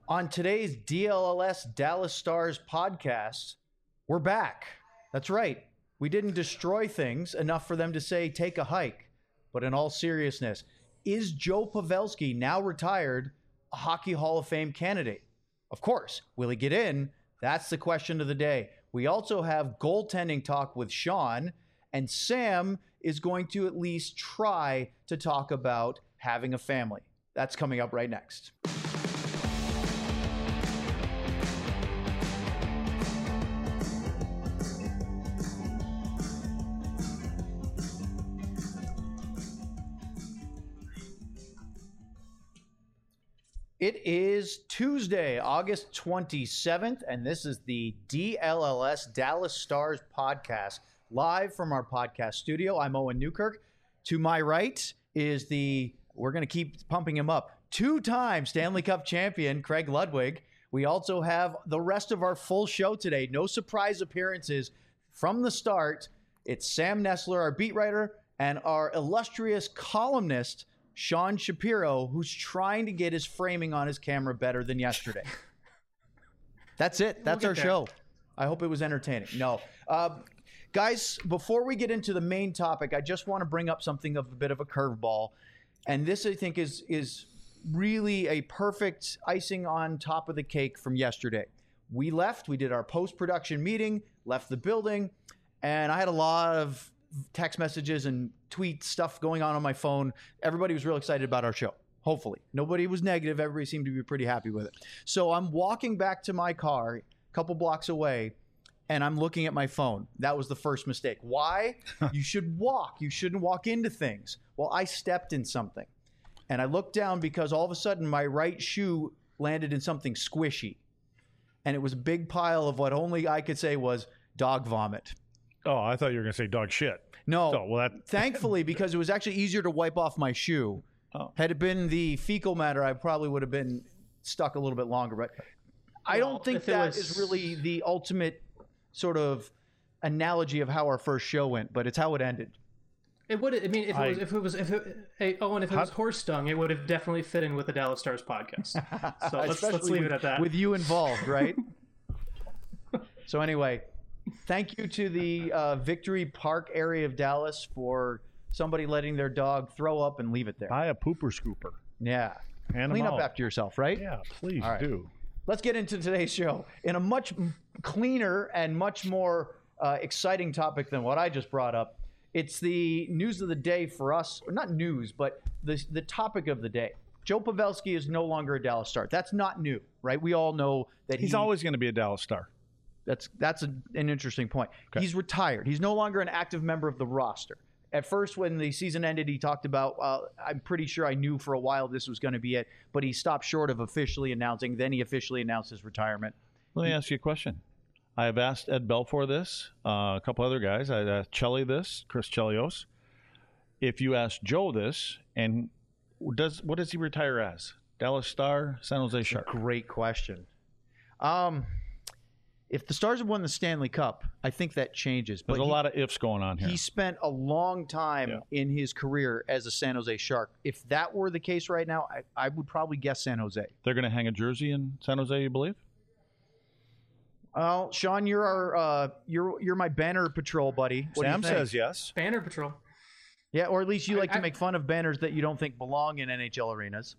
On today's DLLS Dallas Stars podcast, we're back. That's right. We didn't destroy things enough for them to say take a hike. But in all seriousness, is Joe Pavelski, now retired, a Hockey Hall of Fame candidate? Of course. Will he get in? That's the question of the day. We also have goaltending talk with Sean, and Sam is going to at least try to talk about having a family. That's coming up right next. It is Tuesday, August 27th, and this is the DLLS Dallas Stars podcast, live from our podcast studio. I'm Owen Newkirk. To my right is we're going to keep pumping him up, two-time Stanley Cup champion, Craig Ludwig. We also have the rest of our full show today. No surprise appearances from the start. It's Sam Nestler, our beat writer, and our illustrious columnist, Sean Shapiro, who's trying to get his framing on his camera better than yesterday. That's it. That's our show. I hope it was entertaining. No. Guys, before we get into the main topic, I just want to bring up something of a bit of a curveball. And this, I think, is really a perfect icing on top of the cake from yesterday. We left. We did our post-production meeting, left the building, and I had a lot of text messages and tweet stuff going on my phone. Everybody was real excited about our show. Hopefully. Nobody was negative. Everybody seemed to be pretty happy with it. So I'm walking back to my car a couple blocks away, and I'm looking at my phone. That was the first mistake. Why? You should walk. You shouldn't walk into things. Well, I stepped in something, and I looked down because all of a sudden my right shoe landed in something squishy, and it was a big pile of what only I could say was dog vomit. Oh, I thought you were going to say dog shit. No, thankfully, because it was actually easier to wipe off my shoe. Oh. Had it been the fecal matter, I probably would have been stuck a little bit longer. But I don't think that is really the ultimate sort of analogy of how our first show went, but it's how it ended. It would. I mean, if it was horse dung, it would have definitely fit in with the Dallas Stars podcast. So let's leave it at that. With you involved, right? So anyway. Thank you to the Victory Park area of Dallas for somebody letting their dog throw up and leave it there. Buy a pooper scooper. Yeah. Clean up after yourself, right? Yeah, please do. Let's get into today's show in a much cleaner and much more exciting topic than what I just brought up. It's the news of the day for us. Or not news, but the topic of the day. Joe Pavelski is no longer a Dallas Star. That's not new, right? We all know that he's always going to be a Dallas Star. That's an interesting point. Okay. He's retired. He's no longer an active member of the roster. At first, when the season ended, he talked about, I'm pretty sure I knew for a while this was going to be it, but he stopped short of officially announcing. Then he officially announced his retirement. Let me ask you a question. I have asked Ed Belfour this, a couple other guys. I asked Chelly this, Chris Chelios. If you ask Joe this, and what does he retire as? Dallas Star, San Jose Shark? Great question. If the Stars have won the Stanley Cup, I think that changes. There's a lot of ifs going on here. He spent a long time in his career as a San Jose Shark. If that were the case right now, I would probably guess San Jose. They're going to hang a jersey in San Jose, you believe? Well, Sean, you're our you're my banner patrol buddy. Sam says yes. Banner patrol. Yeah, or at least you like to make fun of banners that you don't think belong in NHL arenas.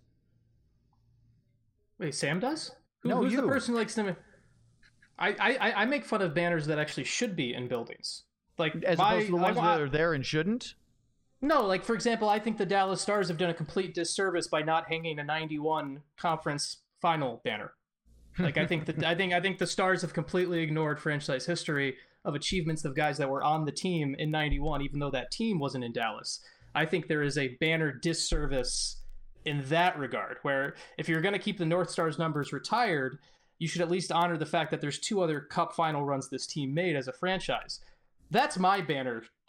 Wait, Sam does? No, who's the person who likes to? I make fun of banners that actually should be in buildings, like as opposed to the ones that are there and shouldn't. No, like for example, I think the Dallas Stars have done a complete disservice by not hanging a '91 conference final banner. Like I think the Stars have completely ignored franchise history of achievements of guys that were on the team in '91, even though that team wasn't in Dallas. I think there is a banner disservice in that regard, where if you're going to keep the North Stars numbers retired, you should at least honor the fact that there's two other Cup final runs this team made as a franchise. That's my banner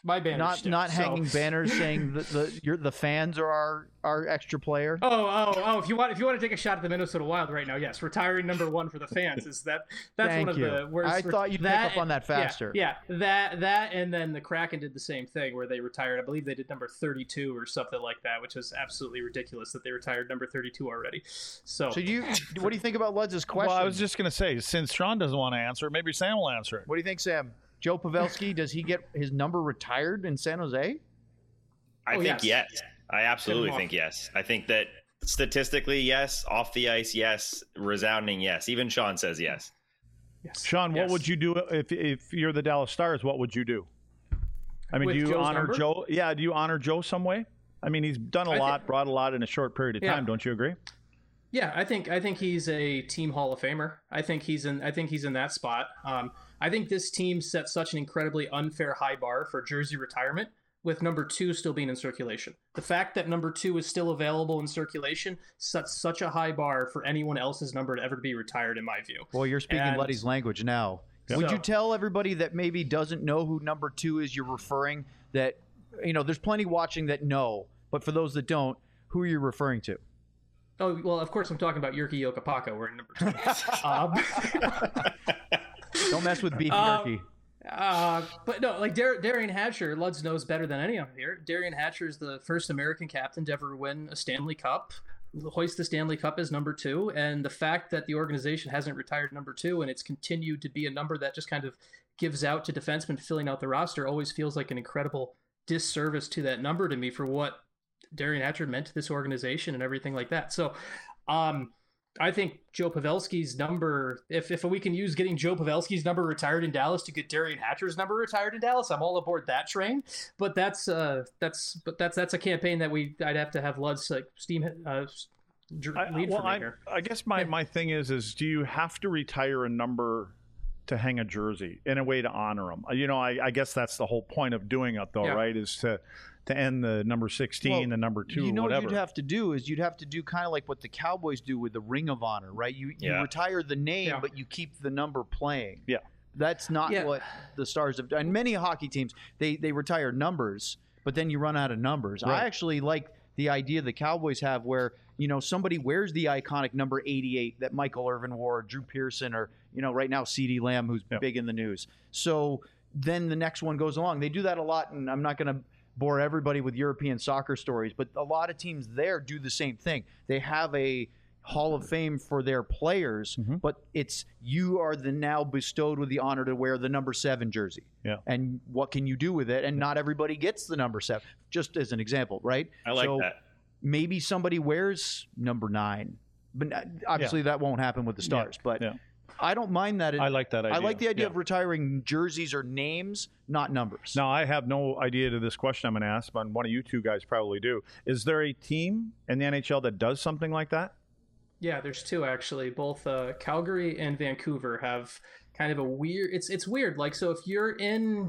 My banner not hanging banners saying the fans are our extra player. Oh! If you want to take a shot at the Minnesota Wild right now, yes, retiring number 1 for the fans is that's Thank one of you. the worst. I thought you'd pick up on that faster. Yeah, that, and then the Kraken did the same thing where they retired. I believe they did number 32 or something like that, which is absolutely ridiculous that they retired number 32 already. So what do you think about Ludz's question? Well, I was just going to say, since Sean doesn't want to answer it, maybe Sam will answer it. What do you think, Sam? Joe Pavelski, does he get his number retired in San Jose? I think yes. I absolutely think yes. I think that statistically, yes. Off the ice, yes. Resounding yes. Even Sean says yes. Yes. Sean, what would you do if you're the Dallas Stars? What would you do? I mean, With do you Joe's honor number? Joe? Yeah, do you honor Joe some way? I mean, he's done a lot, brought a lot in a short period of time. Yeah. Don't you agree? Yeah, I think he's a team Hall of Famer. I think he's in that spot. I think this team set such an incredibly unfair high bar for jersey retirement, with number 2 still being in circulation. The fact that number 2 is still available in circulation sets such a high bar for anyone else's number to ever be retired, in my view. Well, you're speaking Luddy's language now. Yeah. Would you tell everybody that maybe doesn't know who number 2 is you're referring, that, there's plenty watching that know, but for those that don't, who are you referring to? Oh, well, of course I'm talking about Jyrki Jokipakka wearing number 2. Don't mess with beef jerky. But no, like Darian Hatcher, Luds knows better than anyone here. Darian Hatcher is the first American captain to ever win a Stanley Cup, hoist the Stanley Cup as number 2. And the fact that the organization hasn't retired number 2 and it's continued to be a number that just kind of gives out to defensemen filling out the roster always feels like an incredible disservice to that number to me for what Darian Hatcher meant to this organization and everything like that. So, I think Joe Pavelski's number, if we can use getting Joe Pavelski's number retired in Dallas to get Darian Hatcher's number retired in Dallas, I'm all aboard that train. But that's a campaign that I'd have to have Lud's lead for me here. I guess my thing is do you have to retire a number to hang a jersey in a way to honor them? I guess that's the whole point of doing it, though, right? Is to end the number 16, the number 2, whatever. What you'd have to do is you'd have to do kind of like what the Cowboys do with the Ring of Honor, right? You retire the name, but you keep the number playing. Yeah. That's not what the Stars have done. And many hockey teams, they retire numbers, but then you run out of numbers. Right. I actually like the idea the Cowboys have where, somebody wears the iconic number 88 that Michael Irvin wore, or Drew Pearson, or, right now CeeDee Lamb, who's big in the news. So then the next one goes along. They do that a lot, and I'm not going to bore everybody with European soccer stories, but a lot of teams there do the same thing. They have a Hall of Fame for their players, but you are now bestowed with the honor to wear the number 7 jersey. Yeah. And what can you do with it? And not everybody gets the number 7, just as an example, right? I like that. Maybe somebody wears number 9, but obviously that won't happen with the Stars. But I don't mind that. I like that idea. I like the idea of retiring jerseys or names, not numbers. Now, I have no idea to this question I'm going to ask, but one of you two guys probably do. Is there a team in the NHL that does something like that? Yeah, there's 2 actually. Both Calgary and Vancouver have kind of a weird. It's weird. Like, so if you're in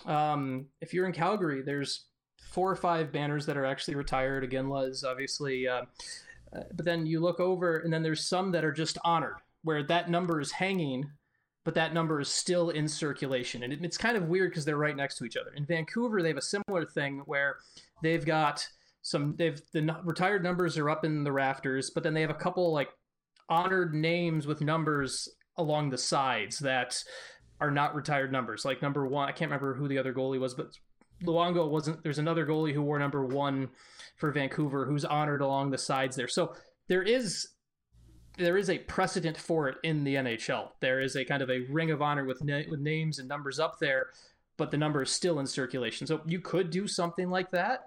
Calgary, there's 4 or 5 banners that are actually retired. Again, Les, obviously. But then you look over, and then there's some that are just honored, where that number is hanging, but that number is still in circulation. And it's kind of weird because they're right next to each other. In Vancouver, they have a similar thing where they've got the retired numbers are up in the rafters, but then they have a couple like honored names with numbers along the sides that are not retired numbers. Like number 1, I can't remember who the other goalie was, but Luongo wasn't. There's another goalie who wore number 1 for Vancouver who's honored along the sides there. So there is a precedent for it in the NHL. There is a kind of a ring of honor with names and numbers up there, but the number is still in circulation. So you could do something like that.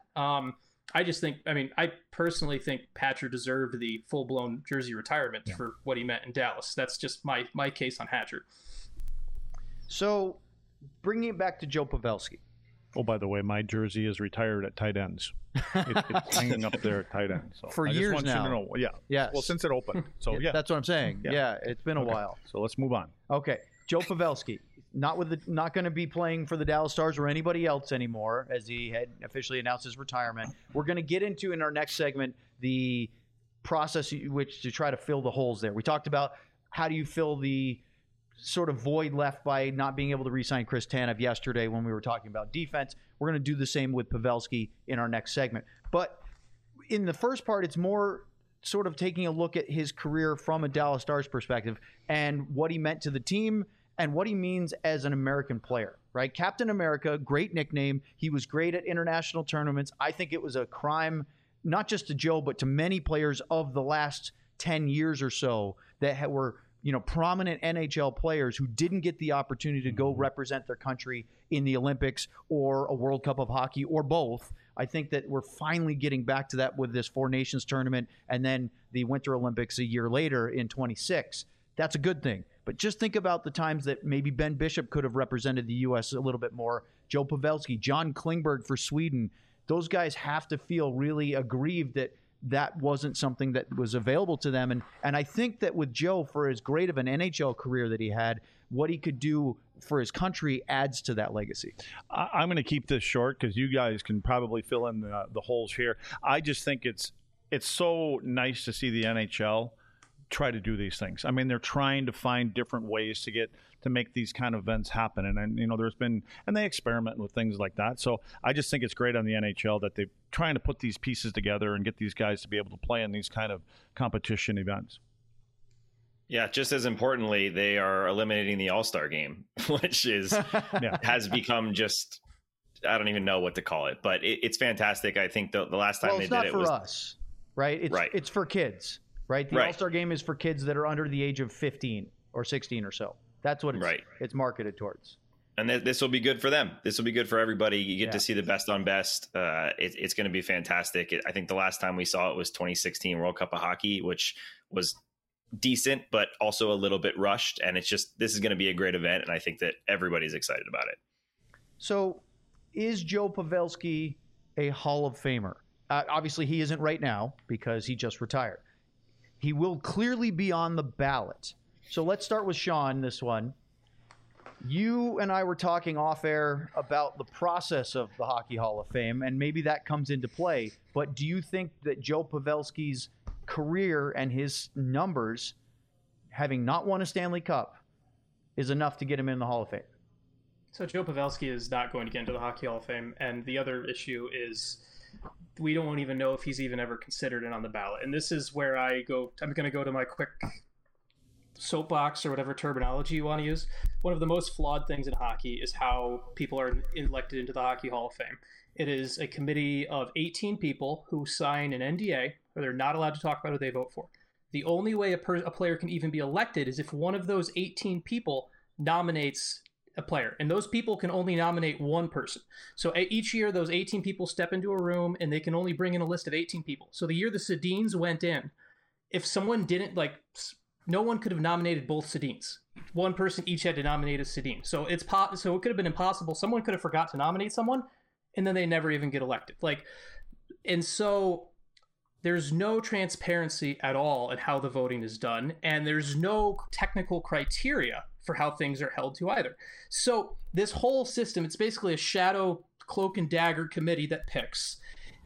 I personally think Hatcher deserved the full-blown jersey retirement for what he meant in Dallas. That's just my case on Hatcher. So bringing it back to Joe Pavelski. Oh, by the way, my jersey is retired at tight ends. It's hanging up there at tight ends. So for I years just want now. You to know. Yeah. Yes. Well, since it opened. So yeah. That's what I'm saying. Yeah, it's been a while. So let's move on. Okay, Joe Pavelski, not going to be playing for the Dallas Stars or anybody else anymore, as he had officially announced his retirement. We're going to get into in our next segment the process to try to fill the holes there. We talked about how do you fill the sort of void left by not being able to re-sign Chris Tanev yesterday when we were talking about defense. We're going to do the same with Pavelski in our next segment. But in the first part, it's more sort of taking a look at his career from a Dallas Stars perspective and what he meant to the team and what he means as an American player, right? Captain America, great nickname. He was great at international tournaments. I think it was a crime, not just to Joe, but to many players of the last 10 years or so that were, prominent NHL players who didn't get the opportunity to go represent their country in the Olympics or a World Cup of Hockey or both. I think that we're finally getting back to that with this Four Nations tournament and then the Winter Olympics a year later in 26. That's a good thing. But just think about the times that maybe Ben Bishop could have represented the U.S. a little bit more. Joe Pavelski, John Klingberg for Sweden. Those guys have to feel really aggrieved that wasn't something that was available to them. And I think that with Joe, for as great of an NHL career that he had, what he could do for his country adds to that legacy. I'm going to keep this short because you guys can probably fill in the holes here. I just think it's so nice to see the NHL try to do these things. I mean, they're trying to find different ways to make these kind of events happen. And they experiment with things like that. So I just think it's great on the NHL that they're trying to put these pieces together and get these guys to be able to play in these kind of competition events. Yeah, just as importantly, they are eliminating the All-Star game, which has become just, I don't even know what to call it, but it's fantastic. I think the last time they did it was... It's not for us, right? It's for kids, right? The All-Star game is for kids that are under the age of 15 or 16 or so. That's what it's marketed towards. And this will be good for them. This will be good for everybody. You get to see the best on best. It's going to be fantastic. I think the last time we saw it was 2016 World Cup of Hockey, which was decent, but also a little bit rushed. And this is going to be a great event. And I think that everybody's excited about it. So is Joe Pavelski a Hall of Famer? Obviously, he isn't right now because he just retired. He will clearly be on the ballot. So let's start with Sean, this one. You and I were talking off air about the process of the Hockey Hall of Fame, and maybe that comes into play. But do you think that Joe Pavelski's career and his numbers, having not won a Stanley Cup, is enough to get him in the Hall of Fame? So Joe Pavelski is not going to get into the Hockey Hall of Fame. And the other issue is we don't even know if he's even ever considered it on the ballot. And this is where I'm going to go to my quick soapbox or whatever terminology you want to use. One of the most flawed things in hockey is how people are elected into the Hockey Hall of Fame. It is a committee of 18 people who sign an NDA, where they're not allowed to talk about who they vote for. The only way a player can even be elected is if one of those 18 people nominates a player, and those people can only nominate one person. So each year, those 18 people step into a room, and they can only bring in a list of 18 people. So the year the Sedins went in, if someone didn't no one could have nominated both Sedins. One person each had to nominate a Sedin. So so it could have been impossible. Someone could have forgot to nominate someone, and then they never even get elected. And so there's no transparency at all in how the voting is done, and there's no technical criteria for how things are held to either. So this whole system, it's basically a shadow cloak and dagger committee that picks,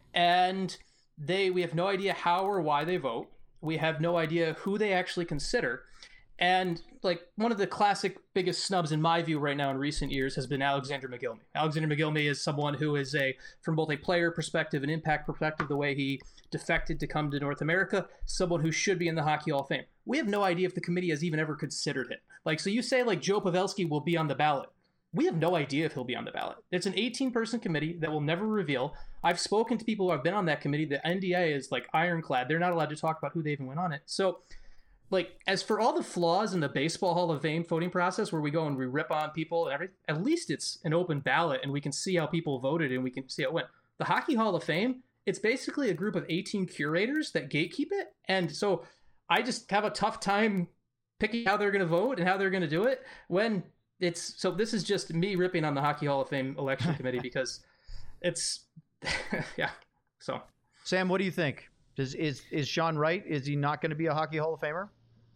and we have no idea how or why they vote. We have no idea who they actually consider. And one of the classic biggest snubs in my view right now in recent years has been Alexander Mogilny. Alexander Mogilny is someone who is from both a player perspective and impact perspective, the way he defected to come to North America, someone who should be in the Hockey Hall of Fame. We have no idea if the committee has even ever considered him. So you say Joe Pavelski will be on the ballot. We have no idea if he'll be on the ballot. It's an 18-person committee that will never reveal. I've spoken to people who have been on that committee. The NDA is ironclad. They're not allowed to talk about who they even went on it. So as for all the flaws in the Baseball Hall of Fame voting process where we go and we rip on people and everything, at least it's an open ballot and we can see how people voted and we can see how it went. The Hockey Hall of Fame, it's basically a group of 18 curators that gatekeep it. And so I just have a tough time picking how they're going to vote and how they're going to do it when so this is just me ripping on the Hockey Hall of Fame election committee because it's, yeah. So Sam, what do you think? Is Sean right? Is he not going to be a Hockey Hall of Famer?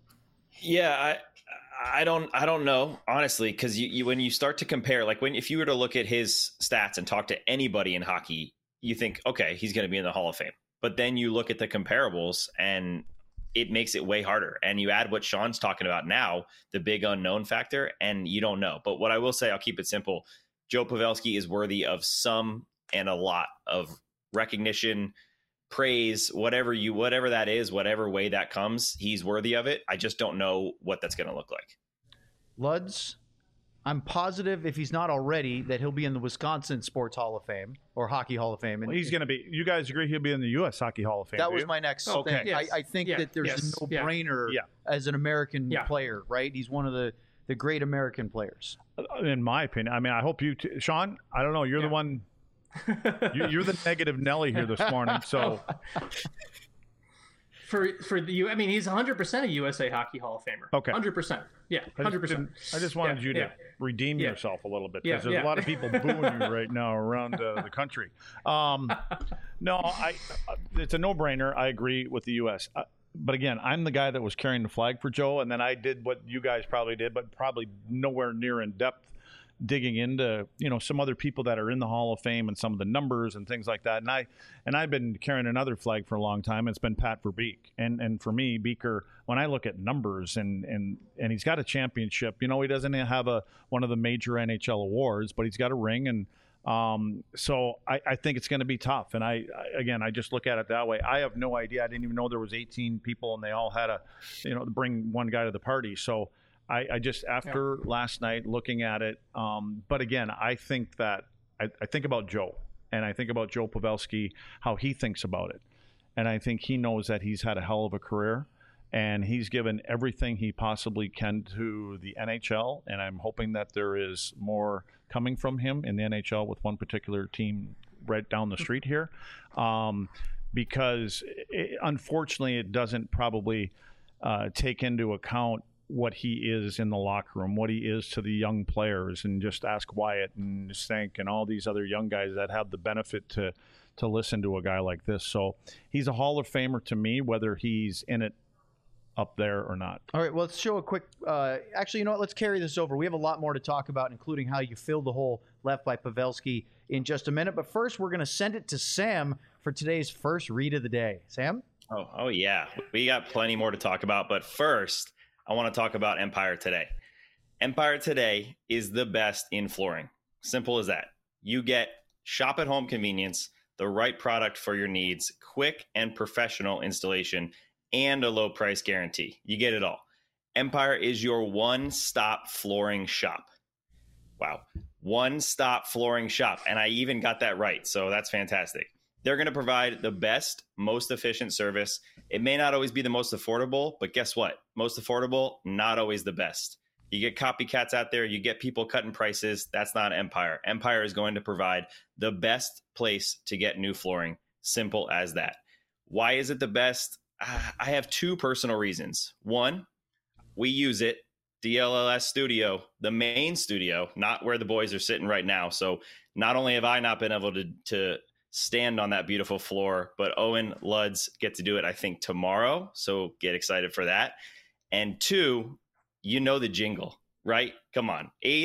Yeah, I don't know, honestly, because you when you start to compare, if you were to look at his stats and talk to anybody in hockey, you think, okay, he's going to be in the Hall of Fame. But then you look at the comparables and it makes it way harder. And you add what Sean's talking about now, the big unknown factor, and you don't know. But what I will say, I'll keep it simple. Joe Pavelski is worthy of some and a lot of recognition, praise, whatever that is, whatever way that comes, he's worthy of it. I just don't know what that's going to look like. Luds, I'm positive if he's not already that he'll be in the Wisconsin Sports Hall of Fame or Hockey Hall of Fame. And Well, he's going to be. You guys agree he'll be in the U.S. Hockey Hall of Fame? that do was you? my next Okay. thing. Yes. I think Yeah. that there's Yes. a no-brainer as an American player, right? He's one of the great American players. In my opinion, I mean, I hope you, Sean. I don't know. You're the one. You're the negative Nelly here this morning. So For the I mean, he's 100% a USA Hockey Hall of Famer. Okay. 100%. Yeah, 100%. I just wanted you to redeem yourself a little bit because there's a lot of people booing you right now around the country. No, it's a no-brainer. I agree with the U.S. But again, I'm the guy that was carrying the flag for Joe, and then I did what you guys probably did, but probably nowhere near in depth, digging into some other people that are in the Hall of Fame and some of the numbers and things like that. And I've been carrying another flag for a long time. It's been Pat Verbeek, and for me, Beaker, when I look at numbers and he's got a championship. He doesn't have one of the major NHL awards, but he's got a ring, and so I think it's going to be tough. And I just look at it that way. I have no idea. I didn't even know there was 18 people, and they all had to bring one guy to the party. So. I just, after last night, looking at it, but again, I think that I think about Joe, and I think about Joe Pavelski, how he thinks about it. And I think he knows that he's had a hell of a career, and he's given everything he possibly can to the NHL, and I'm hoping that there is more coming from him in the NHL with one particular team right down the street here, because unfortunately it doesn't probably take into account what he is in the locker room, what he is to the young players, and just ask Wyatt and Stank and all these other young guys that have the benefit to listen to a guy like this. So he's a Hall of Famer to me, whether he's in it up there or not. All right, well, let's show a quick actually, you know what? Let's carry this over. We have a lot more to talk about, including how you filled the hole left by Pavelski in just a minute. But first, we're going to send it to Sam for today's first read of the day. Sam? Oh yeah. We got plenty more to talk about. But first, I want to talk about Empire Today. Empire Today is the best in flooring. Simple as that. You get shop at home convenience, the right product for your needs, quick and professional installation, and a low price guarantee. You get it all. Empire is your one-stop flooring shop. Wow. One-stop flooring shop. And I even got that right. So that's fantastic. They're going to provide the best, most efficient service. It may not always be the most affordable, but guess what? Most affordable, not always the best. You get copycats out there. You get people cutting prices. That's not Empire. Empire is going to provide the best place to get new flooring. Simple as that. Why is it the best? I have two personal reasons. One, we use it. DLLS studio, the main studio, not where the boys are sitting right now. So not only have I not been able to stand on that beautiful floor, but Owen Luds get to do it, I think, tomorrow. So get excited for that. And two, the jingle, right? Come on.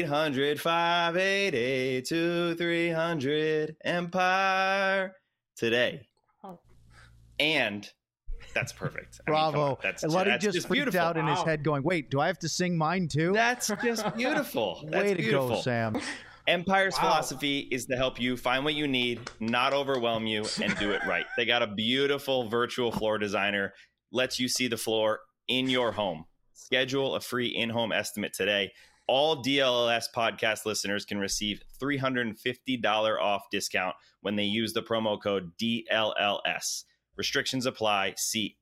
800-588-2300 Empire Today. And that's perfect. Bravo. That's Luddy just freaked beautiful. out in his head going, wait, do I have to sing mine too? That's just beautiful. Way to go, Sam. Empire's philosophy is to help you find what you need, not overwhelm you, and do it right. They got a beautiful virtual floor designer, lets you see the floor in your home. Schedule a free in-home estimate today. All DLLS podcast listeners can receive $350 off discount when they use the promo code DLLS. Restrictions apply. See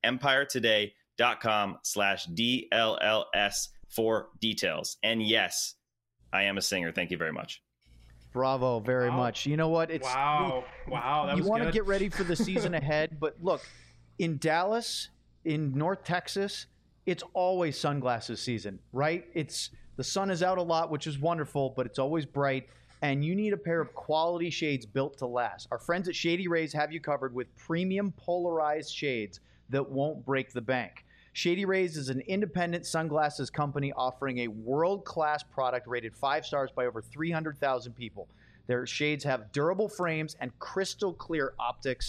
empiretoday.com/DLLS for details. And yes, I am a singer. Thank you very much. Bravo, very much. You know what? It's Wow, that you was want to good. get ready for the season ahead, but look, in Dallas, in North Texas, it's always sunglasses season, right? The sun is out a lot, which is wonderful, but it's always bright, and you need a pair of quality shades built to last. Our friends at Shady Rays have you covered with premium polarized shades that won't break the bank. Shady Rays is an independent sunglasses company offering a world-class product rated 5 stars by over 300,000 people. Their shades have durable frames and crystal clear optics,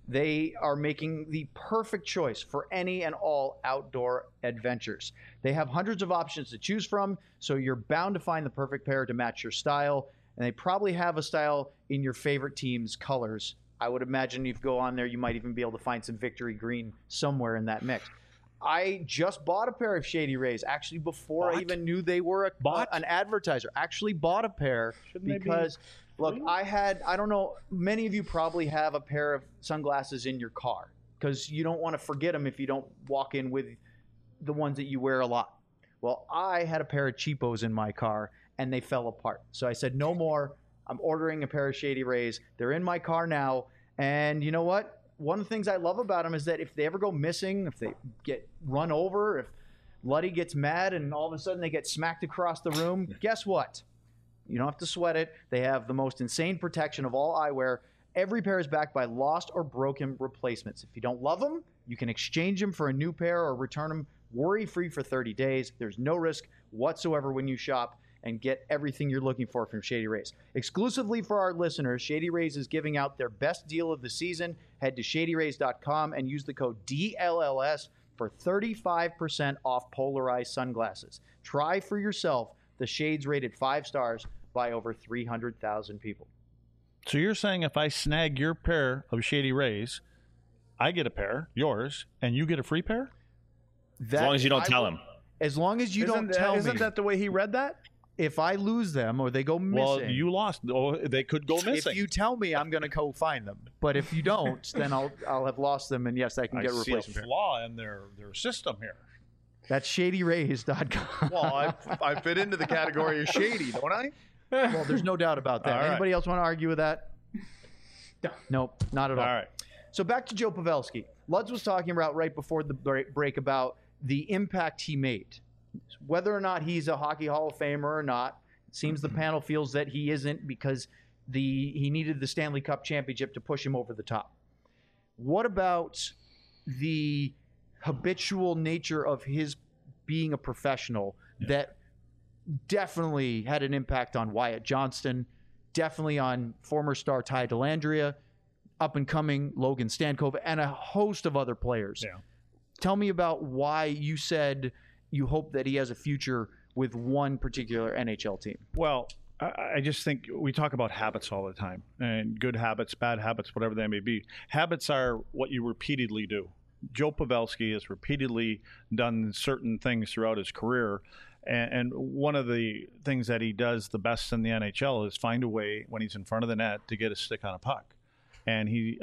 They are making the perfect choice for any and all outdoor adventures. They have hundreds of options to choose from, so you're bound to find the perfect pair to match your style. And they probably have a style in your favorite team's colors. I would imagine if you go on there, you might even be able to find some Victory Green somewhere in that mix. I just bought a pair of Shady Rays, actually before I even knew they were an advertiser. Actually bought a pair because, look, I don't know, many of you probably have a pair of sunglasses in your car because you don't want to forget them if you don't walk in with the ones that you wear a lot. Well, I had a pair of cheapos in my car, and they fell apart. So I said, no more. I'm ordering a pair of Shady Rays. They're in my car now. And you know what? One of the things I love about them is that if they ever go missing, if they get run over, if Luddy gets mad and all of a sudden they get smacked across the room, guess what? You don't have to sweat it. They have the most insane protection of all eyewear. Every pair is backed by lost or broken replacements. If you don't love them, you can exchange them for a new pair or return them worry-free for 30 days. There's no risk whatsoever when you shop and get everything you're looking for from Shady Rays. Exclusively for our listeners, Shady Rays is giving out their best deal of the season. Head to shadyrays.com and use the code DLLS for 35% off polarized sunglasses. Try for yourself the shades rated 5 stars by over 300,000 people. So you're saying if I snag your pair of Shady Rays, I get a pair, yours, and you get a free pair? As long as you don't tell him. As long as you don't tell me. Isn't that the way he read that? If I lose them or they go missing. Well, you lost. Oh, they could go missing. If you tell me, I'm going to go find them. But if you don't, then I'll have lost them, and yes, I can get a replacement. I see a flaw in their system here. That's shadyrays.com. Well, I fit into the category of shady, don't I? Well, there's no doubt about that. All right. Anybody else want to argue with that? No. Nope, not at all. All right. So back to Joe Pavelski. Lutz was talking about right before the break about the impact he made. Whether or not he's a Hockey Hall of Famer or not, it seems the panel feels that he isn't because he needed the Stanley Cup championship to push him over the top. What about the habitual nature of his being a professional that definitely had an impact on Wyatt Johnston, definitely on former star Ty Dellandrea, up-and-coming Logan Stankoven, and a host of other players. Yeah. Tell me about why you said you hope that he has a future with one particular NHL team. Well, I just think we talk about habits all the time, and good habits, bad habits, whatever they may be. Habits are what you repeatedly do. Joe Pavelski has repeatedly done certain things throughout his career, and one of the things that he does the best in the NHL is find a way when he's in front of the net to get a stick on a puck. And he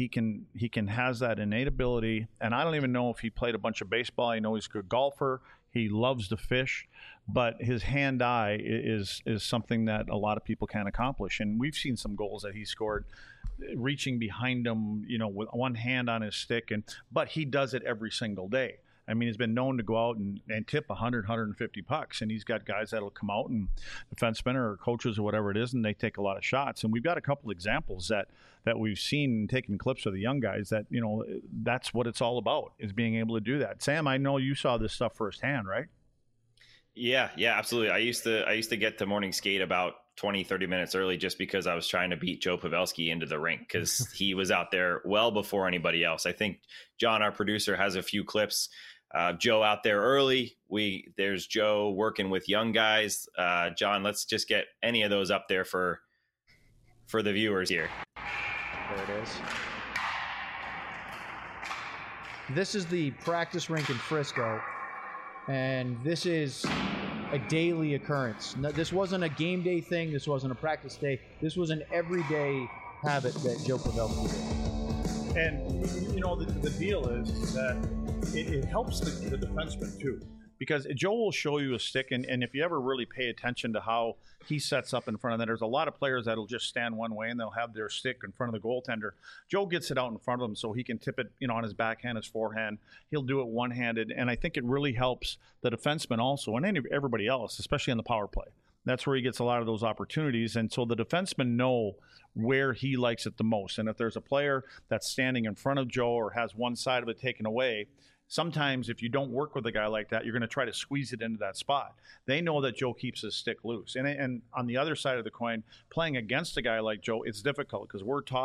has that innate ability. And I don't even know if he played a bunch of baseball. I know he's a good golfer. He loves to fish, but his hand-eye is something that a lot of people can't accomplish. And we've seen some goals that he scored reaching behind him, with one hand on his stick, but he does it every single day. I mean, he's been known to go out and tip 100, 150 pucks, and he's got guys that'll come out and defensemen or coaches or whatever it is, and they take a lot of shots. And we've got a couple examples that we've seen taking clips of the young guys that, that's what it's all about, is being able to do that. Sam, I know you saw this stuff firsthand, right? Yeah, absolutely. I used to get to morning skate about 20, 30 minutes early just because I was trying to beat Joe Pavelski into the rink because he was out there well before anybody else. I think John, our producer, has a few clips. Joe out there early. There's Joe working with young guys. John, let's just get any of those up there for the viewers here. There it is. This is the practice rink in Frisco, and this is a daily occurrence. No, this wasn't a game day thing. This wasn't a practice day. This was an everyday habit that Joe Pavelski did. And, the deal is that it helps the defenseman, too. Because Joe will show you a stick, and if you ever really pay attention to how he sets up in front of that, there's a lot of players that'll just stand one way, and they'll have their stick in front of the goaltender. Joe gets it out in front of him so he can tip it, on his backhand, his forehand. He'll do it one-handed, and I think it really helps the defenseman also, and everybody else, especially on the power play. That's where he gets a lot of those opportunities, and so the defensemen know where he likes it the most. And if there's a player that's standing in front of Joe or has one side of it taken away, sometimes if you don't work with a guy like that, you're going to try to squeeze it into that spot. They know that Joe keeps his stick loose. And on the other side of the coin, playing against a guy like Joe, it's difficult because we're taught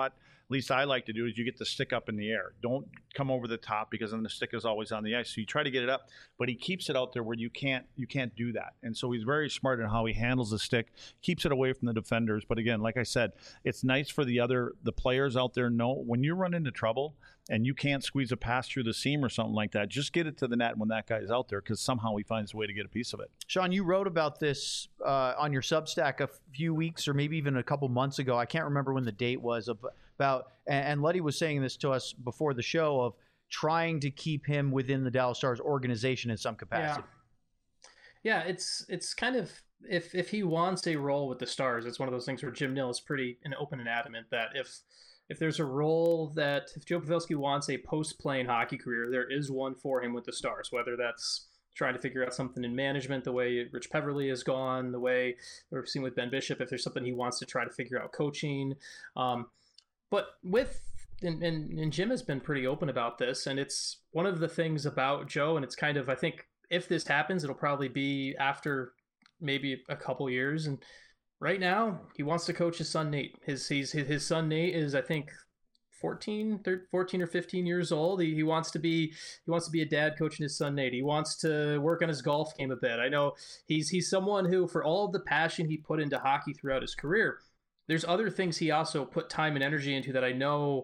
least I like to do, is you get the stick up in the air. Don't come over the top, because then the stick is always on the ice. So you try to get it up, but he keeps it out there where you can't do that. And so he's very smart in how he handles the stick, keeps it away from the defenders. But again, like I said, it's nice for the players out there know when you run into trouble and you can't squeeze a pass through the seam or something like that, just get it to the net when that guy's out there, because somehow he finds a way to get a piece of it. Sean, you wrote about this on your Substack a few weeks or maybe even a couple months ago. I can't remember when the date was, about, and Letty was saying this to us before the show, of trying to keep him within the Dallas Stars organization in some capacity. Yeah, it's kind of, if he wants a role with the Stars, it's one of those things where Jim Nill is pretty open and adamant that if there's a role that, if Joe Pavelski wants a post-playing hockey career, there is one for him with the Stars, whether that's trying to figure out something in management, the way Rich Peverly has gone, the way we're seeing with Ben Bishop, if there's something he wants to try to figure out coaching. But and Jim has been pretty open about this, and it's one of the things about Joe, and it's kind of, I think, if this happens, it'll probably be after maybe a couple years. And right now, he wants to coach his son, Nate. His son, Nate, is, I think, 14 or 15 years old. He wants to be a dad coaching his son, Nate. He wants to work on his golf game a bit. I know he's someone who, for all of the passion he put into hockey throughout his career, there's other things he also put time and energy into that I know.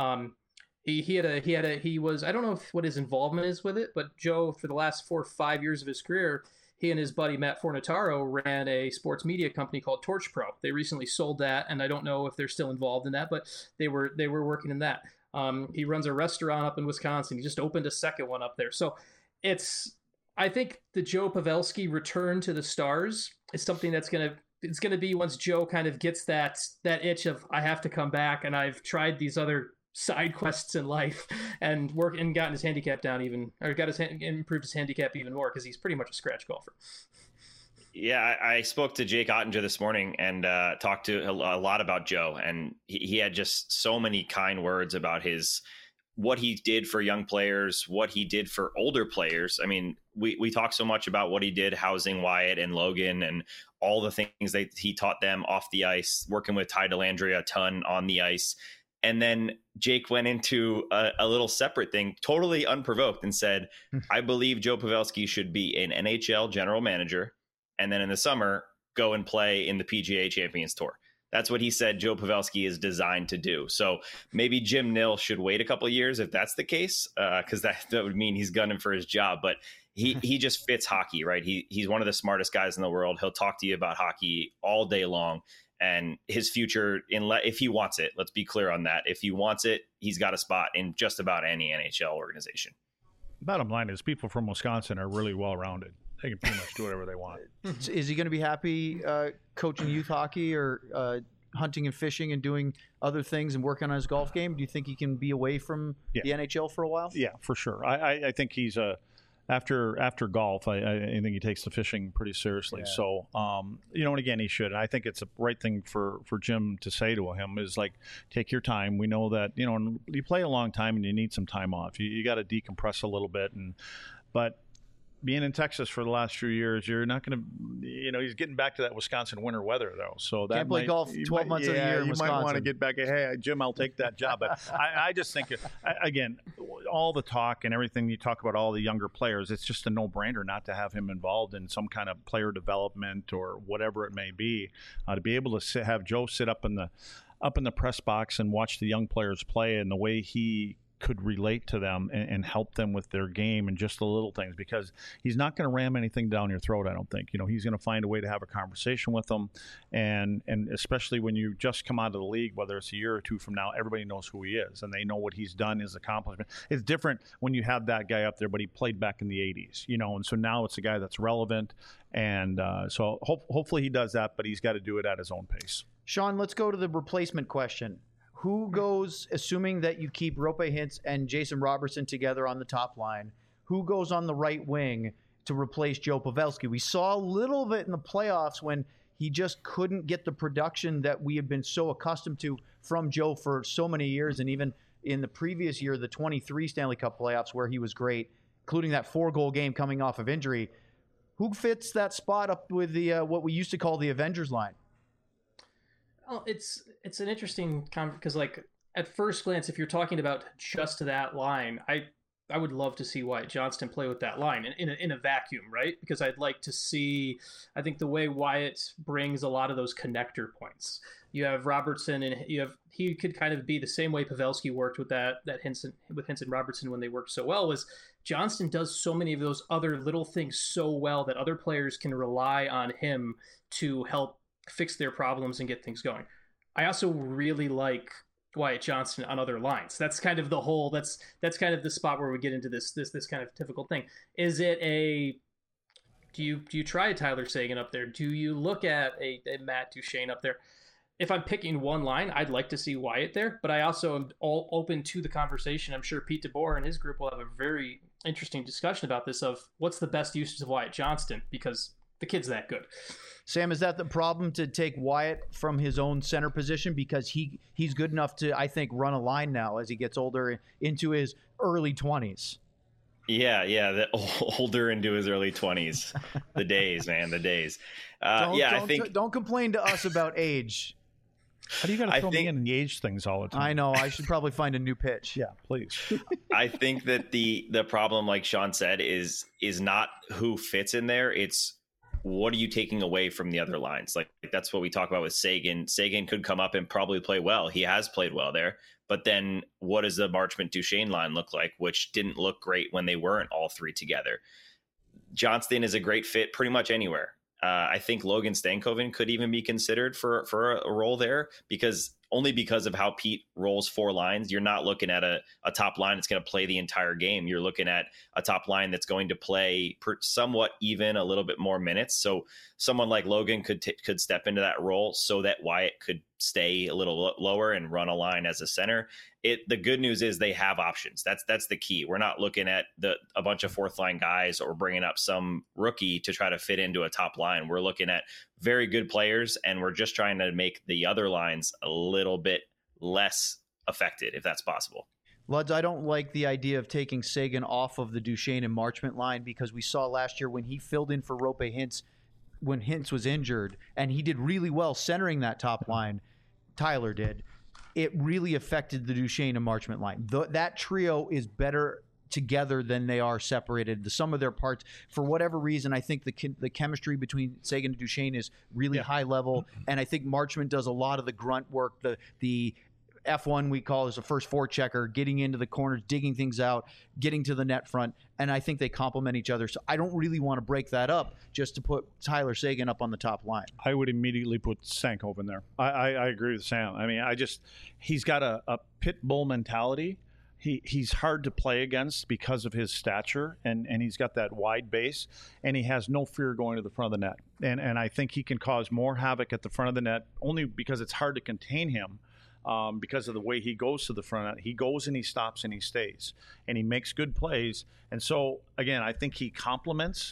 He was, I don't know what his involvement is with it, but Joe, for the last 4 or 5 years of his career, he and his buddy Matt Fornataro ran a sports media company called Torch Pro. They recently sold that, and I don't know if they're still involved in that, but they were working in that. He runs a restaurant up in Wisconsin. He just opened a second one up there. So I think the Joe Pavelski return to the Stars is something that's going to be, once Joe kind of gets that itch of, I have to come back, and I've tried these other side quests in life and gotten his handicap down improved his handicap even more, because he's pretty much a scratch golfer. Yeah, I spoke to Jake Ottinger this morning and talked to a lot about Joe, and he had just so many kind words about what he did for young players, what he did for older players. I mean, we talk so much about what he did housing Wyatt and Logan and all the things that he taught them off the ice, working with Ty Dellandrea a ton on the ice. And then Jake went into a little separate thing, totally unprovoked, and said, I believe Joe Pavelski should be an NHL general manager, and then in the summer, go and play in the PGA Champions Tour. That's what he said Joe Pavelski is designed to do. So maybe Jim Nill should wait a couple of years if that's the case, because that would mean he's gunning for his job. But he just fits hockey, right? He's one of the smartest guys in the world. He'll talk to you about hockey all day long. And his future, if he wants it, let's be clear on that. If he wants it, he's got a spot in just about any NHL organization. Bottom line is, people from Wisconsin are really well-rounded. They can pretty much do whatever they want. Is he going to be happy coaching youth hockey or hunting and fishing and doing other things and working on his golf game? Do you think he can be away from the NHL for a while? Yeah, for sure. I think he's after golf, I think he takes the fishing pretty seriously. Yeah. So, and again, he should. And I think it's a right thing for Jim to say to him is, like, take your time. We know that, you play a long time and you need some time off. You got to decompress a little bit. But being in Texas for the last few years, you're not going to, he's getting back to that Wisconsin winter weather, though. So that can't play golf 12 months of the year in Wisconsin. You might want to get back. Hey, Jim, I'll take that job. But I just think, again, all the talk and everything you talk about, all the younger players, it's just a no-brainer not to have him involved in some kind of player development or whatever it may be. To be able to have Joe sit up in the press box and watch the young players play, and the way he could relate to them and help them with their game and just the little things, because he's not going to ram anything down your throat. I don't think, he's going to find a way to have a conversation with them. And especially when you just come out of the league, whether it's a year or two from now, everybody knows who he is and they know what he's done, his accomplishment. It's different when you have that guy up there, but he played back in the 80s, and so now it's a guy that's relevant. And so hopefully he does that, but he's got to do it at his own pace. Sean, let's go to the replacement question. Who goes, assuming that you keep Roope Hintz and Jason Robertson together on the top line, who goes on the right wing to replace Joe Pavelski? We saw a little bit in the playoffs when he just couldn't get the production that we have been so accustomed to from Joe for so many years, and even in the previous year, the 23 Stanley Cup playoffs, where he was great, including that 4-goal game coming off of injury. Who fits that spot up with the what we used to call the Avengers line? Well, it's an interesting because, like, at first glance, if you're talking about just that line, I would love to see Wyatt Johnston play with that line in a vacuum, right? Because I'd like to see, I think the way Wyatt brings a lot of those connector points. You have Robertson, and he could kind of be the same way Pavelski worked with that Hinson Robertson when they worked so well. Was Johnston does so many of those other little things so well that other players can rely on him to help fix their problems and get things going. I also really like Wyatt Johnston on other lines. That's kind of the whole. That's kind of the spot where we get into this kind of difficult thing. Is it a? Do you try a Tyler Seguin up there? Do you look at a Matt Duchene up there? If I'm picking one line, I'd like to see Wyatt there, but I also am all open to the conversation. I'm sure Pete DeBoer and his group will have a very interesting discussion about this of what's the best uses of Wyatt Johnston, because the kid's that good. Sam, is that the problem, to take Wyatt from his own center position? Because he's good enough to, I think, run a line now as he gets older into his early 20s. Yeah, the older into his early 20s. The days, man, the days. I think don't complain to us about age. How do you got to throw me in the age things all the time? I know. I should probably find a new pitch. Yeah, please. I think that the problem, like Sean said, is not who fits in there. It's what are you taking away from the other lines? Like that's what we talk about with Seguin. Seguin could come up and probably play well. He has played well there. But then what does the Marchment Duchene line look like, which didn't look great when they weren't all three together? Johnston is a great fit pretty much anywhere. I think Logan Stankoven could even be considered for a role there, because of how Pete rolls four lines. You're not looking at a top line that's going to play the entire game. You're looking at a top line that's going to play somewhat even, a little bit more minutes. So someone like Logan could step into that role so that Wyatt could stay a little lower and run a line as a center. The good news is they have options. That's the key. We're not looking at a bunch of fourth line guys or bringing up some rookie to try to fit into a top line. We're looking at very good players, and we're just trying to make the other lines a little bit less affected, if that's possible. Luds, I don't like the idea of taking Seguin off of the Duchene and Marchment line, because we saw last year when he filled in for Roope Hintz when Hintz was injured, and he did really well centering that top line. Tyler did. It really affected the Duchene and Marchment line. That trio is better together than they are separated. The sum of their parts, for whatever reason, I think the chemistry between Seguin and Duchene is really high level, and I think Marchment does a lot of the grunt work, the F1 we call is a first forechecker, getting into the corners, digging things out, getting to the net front, and I think they complement each other. So I don't really want to break that up just to put Tyler Seguin up on the top line. I would immediately put Stankoven there. I agree with Sam. I mean, he's got a pit bull mentality. He's hard to play against because of his stature, and he's got that wide base, and he has no fear going to the front of the net. And I think he can cause more havoc at the front of the net, only because it's hard to contain him. Because of the way he goes to the front. He goes and he stops and he stays, and he makes good plays. And so, again, I think he complements,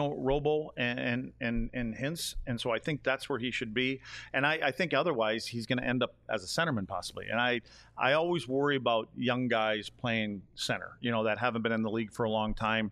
Robo and Hintz. And so I think that's where he should be. And I think otherwise he's going to end up as a centerman possibly. And I always worry about young guys playing center, that haven't been in the league for a long time.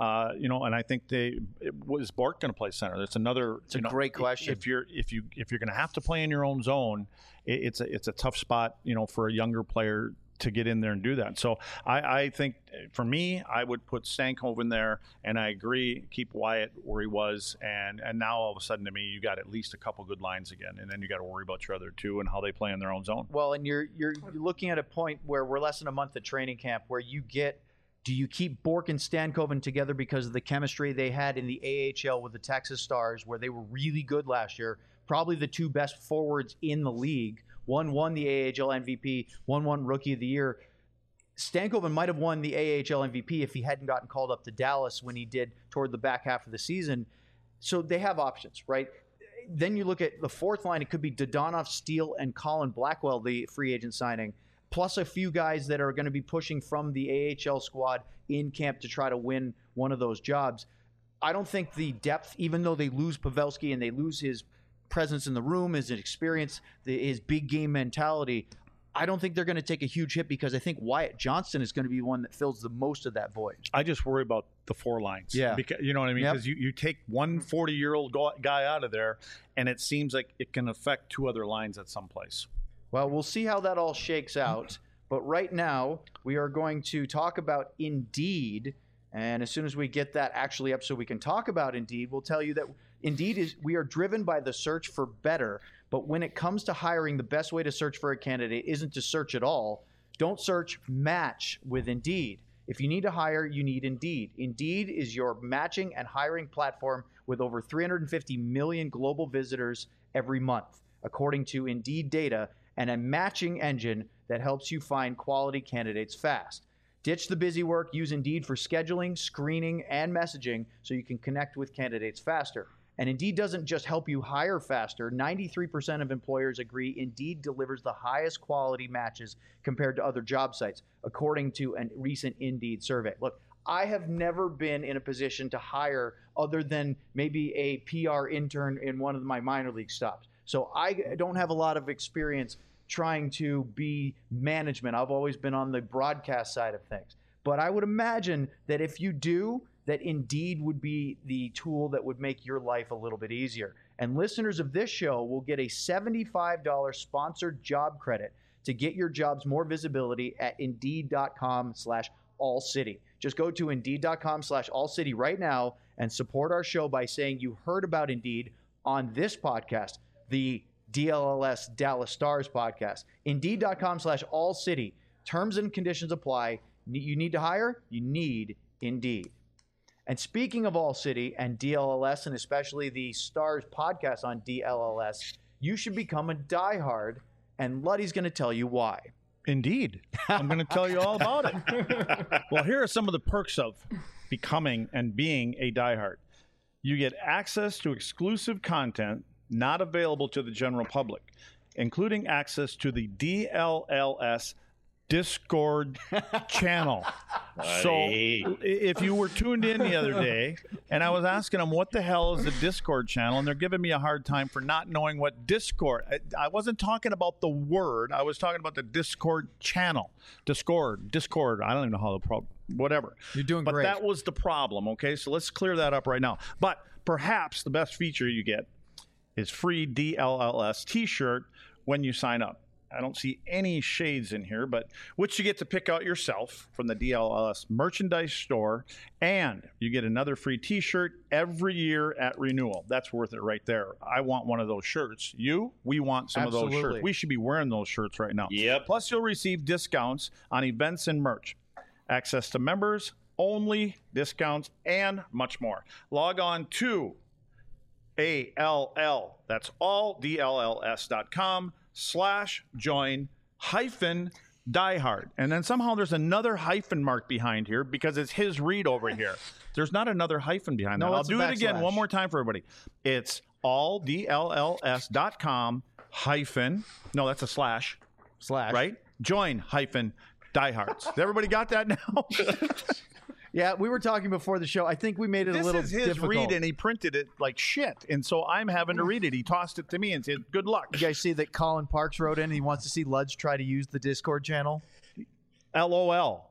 And I think was Bourque going to play center? That's another. It's a great question. If you're going to have to play in your own zone, it's a tough spot, for a younger player to get in there and do that. So I think for me, I would put Stankoven there, and I agree, keep Wyatt where he was, and now all of a sudden to me, you got at least a couple good lines again, and then you got to worry about your other two and how they play in their own zone. Well, and you're looking at a point where we're less than a month at training camp where do you keep Bourque and Stankoven together because of the chemistry they had in the AHL with the Texas Stars, where they were really good last year, probably the two best forwards in the league. One won the AHL MVP, one won Rookie of the Year. Stankoven might have won the AHL MVP if he hadn't gotten called up to Dallas when he did toward the back half of the season. So they have options, right? Then you look at the fourth line. It could be Dodonov, Steele, and Colin Blackwell, the free agent signing, plus a few guys that are going to be pushing from the AHL squad in camp to try to win one of those jobs. I don't think the depth, even though they lose Pavelski and they lose his presence in the room, his experience, his big game mentality, I don't think they're going to take a huge hit, because I think Wyatt Johnston is going to be one that fills the most of that void. I just worry about the four lines. Yeah. Because, you know what I mean? Because you take one 40-year-old guy out of there, and it seems like it can affect two other lines at some place. Well, we'll see how that all shakes out. But right now, we are going to talk about Indeed. And as soon as we get that actually up so we can talk about Indeed, we'll tell you that Indeed we are driven by the search for better. But when it comes to hiring, the best way to search for a candidate isn't to search at all. Don't search, match with Indeed. If you need to hire, you need Indeed. Indeed is your matching and hiring platform with over 350 million global visitors every month, according to Indeed data, and a matching engine that helps you find quality candidates fast. Ditch the busy work. Use Indeed for scheduling, screening, and messaging so you can connect with candidates faster. And Indeed doesn't just help you hire faster. 93% of employers agree Indeed delivers the highest quality matches compared to other job sites, according to a recent Indeed survey. Look, I have never been in a position to hire other than maybe a PR intern in one of my minor league stops. So I don't have a lot of experience trying to be management. I've always been on the broadcast side of things. But I would imagine that if you do, that Indeed would be the tool that would make your life a little bit easier. And listeners of this show will get a $75 sponsored job credit to get your jobs more visibility at Indeed.com/allcity. Just go to Indeed.com/allcity right now and support our show by saying you heard about Indeed on this podcast, the DLLS Dallas Stars podcast. Indeed.com/allcity. Terms and conditions apply. You need to hire? You need Indeed. And speaking of All City and DLLS, and especially the Stars podcast on DLLS, you should become a diehard, and Luddy's going to tell you why. Indeed. I'm going to tell you all about it. Well, here are some of the perks of becoming and being a diehard. You get access to exclusive content not available to the general public, including access to the DLLS Discord channel. So if you were tuned in the other day and I was asking them what the hell is the Discord channel, and they're giving me a hard time for not knowing what Discord. I wasn't talking about the word. I was talking about the Discord channel. Discord. I don't even know how to whatever. You're doing but great. That was the problem. Okay, so let's clear that up right now. But perhaps the best feature you get is free DLLS t-shirt when you sign up. I don't see any shades in here, but which you get to pick out yourself from the DLLS merchandise store, and you get another free t-shirt every year at renewal. That's worth it right there. I want one of those shirts. We want some Absolutely. of those shirts. We should be wearing those shirts right now. Yep. Plus, you'll receive discounts on events and merch, access to members only discounts, and much more. Log on to ALL, that's all, DLLS.com/join-diehard. And then somehow there's another hyphen mark behind here because it's his read over here. There's not another hyphen behind that. I'll do it again one more time for everybody. It's all DLLS.com hyphen, no, that's a slash, right? Join-diehards. Everybody got that now? Yeah, we were talking before the show. I think we made it a little difficult. This is his difficult. read, and he printed it like shit. And so I'm having to read it. He tossed it to me and said, good luck. You guys see that Colin Parks wrote in and he wants to see Ludge try to use the Discord channel? LOL.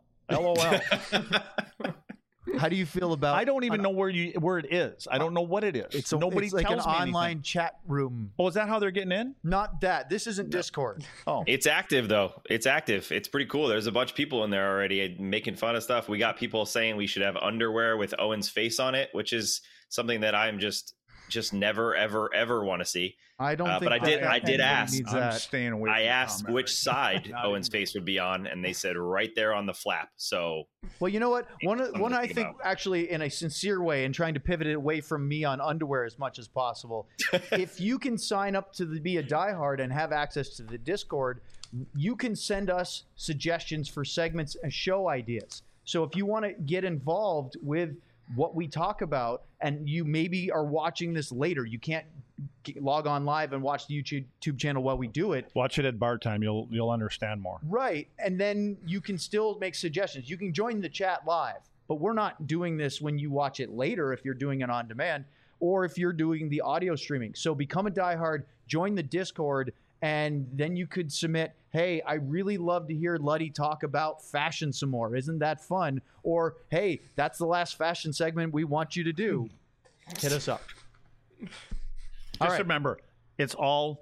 How do you feel about? I don't even know where it is. I don't know what it is. Nobody it's like tells an me online anything. chat room. Oh, is that how they're getting in? Not that. This isn't Discord. Oh, It's active, though. It's active. It's pretty cool. There's a bunch of people in there already making fun of stuff. We got people saying we should have underwear with Owen's face on it, which is something that I'm just never, ever, ever want to see. I don't think. But I did anybody ask. needs I'm that. staying away. I from asked comment which right side Not Owen's even- face would be on, and they said right there on the flap. So Well, you know what? One Something to I think think about. actually in a sincere way, and trying to pivot it away from me on underwear as much as possible. If you can sign up to be a diehard and have access to the Discord, you can send us suggestions for segments and show ideas. So if you want to get involved with what we talk about, and you maybe are watching this later, you can't log on live and watch the YouTube channel while we do it. Watch it at bar time. You'll understand more. Right. And then you can still make suggestions. You can join the chat live, but we're not doing this when you watch it later if you're doing it on demand or if you're doing the audio streaming. So become a diehard, join the Discord, and then you could submit, hey, I really love to hear Luddy talk about fashion some more. Isn't that fun? Or, hey, that's the last fashion segment we want you to do. Hit us up. Just remember, It's all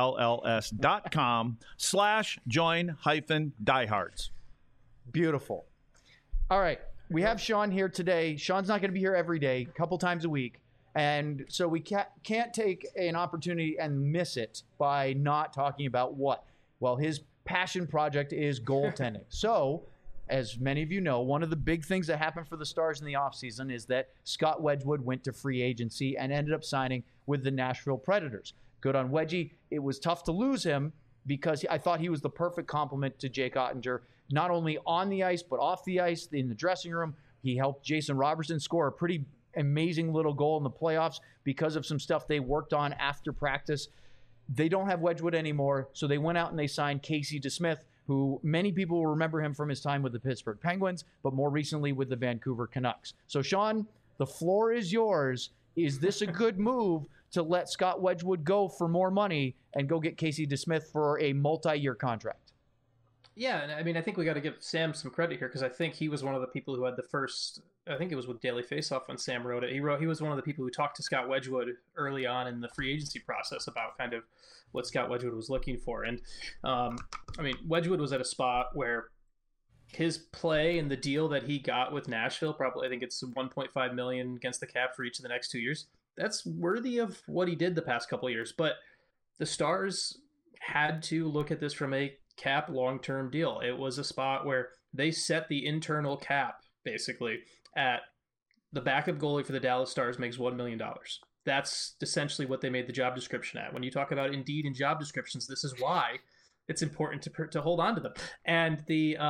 DLLS.com/join-diehards. Beautiful. All right. We have Sean here today. Sean's not going to be here every day, a couple times a week. And so we can't take an opportunity and miss it by not talking about what? Well, his passion project is goaltending. So, as many of you know, one of the big things that happened for the Stars in the offseason is that Scott Wedgwood went to free agency and ended up signing with the Nashville Predators. Good on Wedgie. It was tough to lose him because I thought he was the perfect complement to Jake Ottinger, not only on the ice, but off the ice, in the dressing room. He helped Jason Robertson score a pretty amazing little goal in the playoffs because of some stuff they worked on after practice. They don't have Wedgwood anymore, so they went out and they signed Casey DeSmith, who many people will remember him from his time with the Pittsburgh Penguins, but more recently with the Vancouver Canucks. So, Sean, the floor is yours. Is this a good move to let Scott Wedgwood go for more money and go get Casey DeSmith for a multi-year contract? Yeah, and I mean, I think we got to give Sam some credit here because I think he was one of the people who had the first. I think it was with Daily Faceoff when Sam wrote it. He was one of the people who talked to Scott Wedgwood early on in the free agency process about kind of what Scott Wedgwood was looking for. And I mean, Wedgwood was at a spot where his play and the deal that he got with Nashville, probably I think it's $1.5 million against the cap for each of the next 2 years. That's worthy of what he did the past couple of years. But the Stars had to look at this from a cap long-term deal. It was a spot where they set the internal cap basically at the backup goalie for the Dallas Stars makes $1 million. That's essentially what they made the job description at. When you talk about Indeed and job descriptions, this is why it's important to hold on to them. And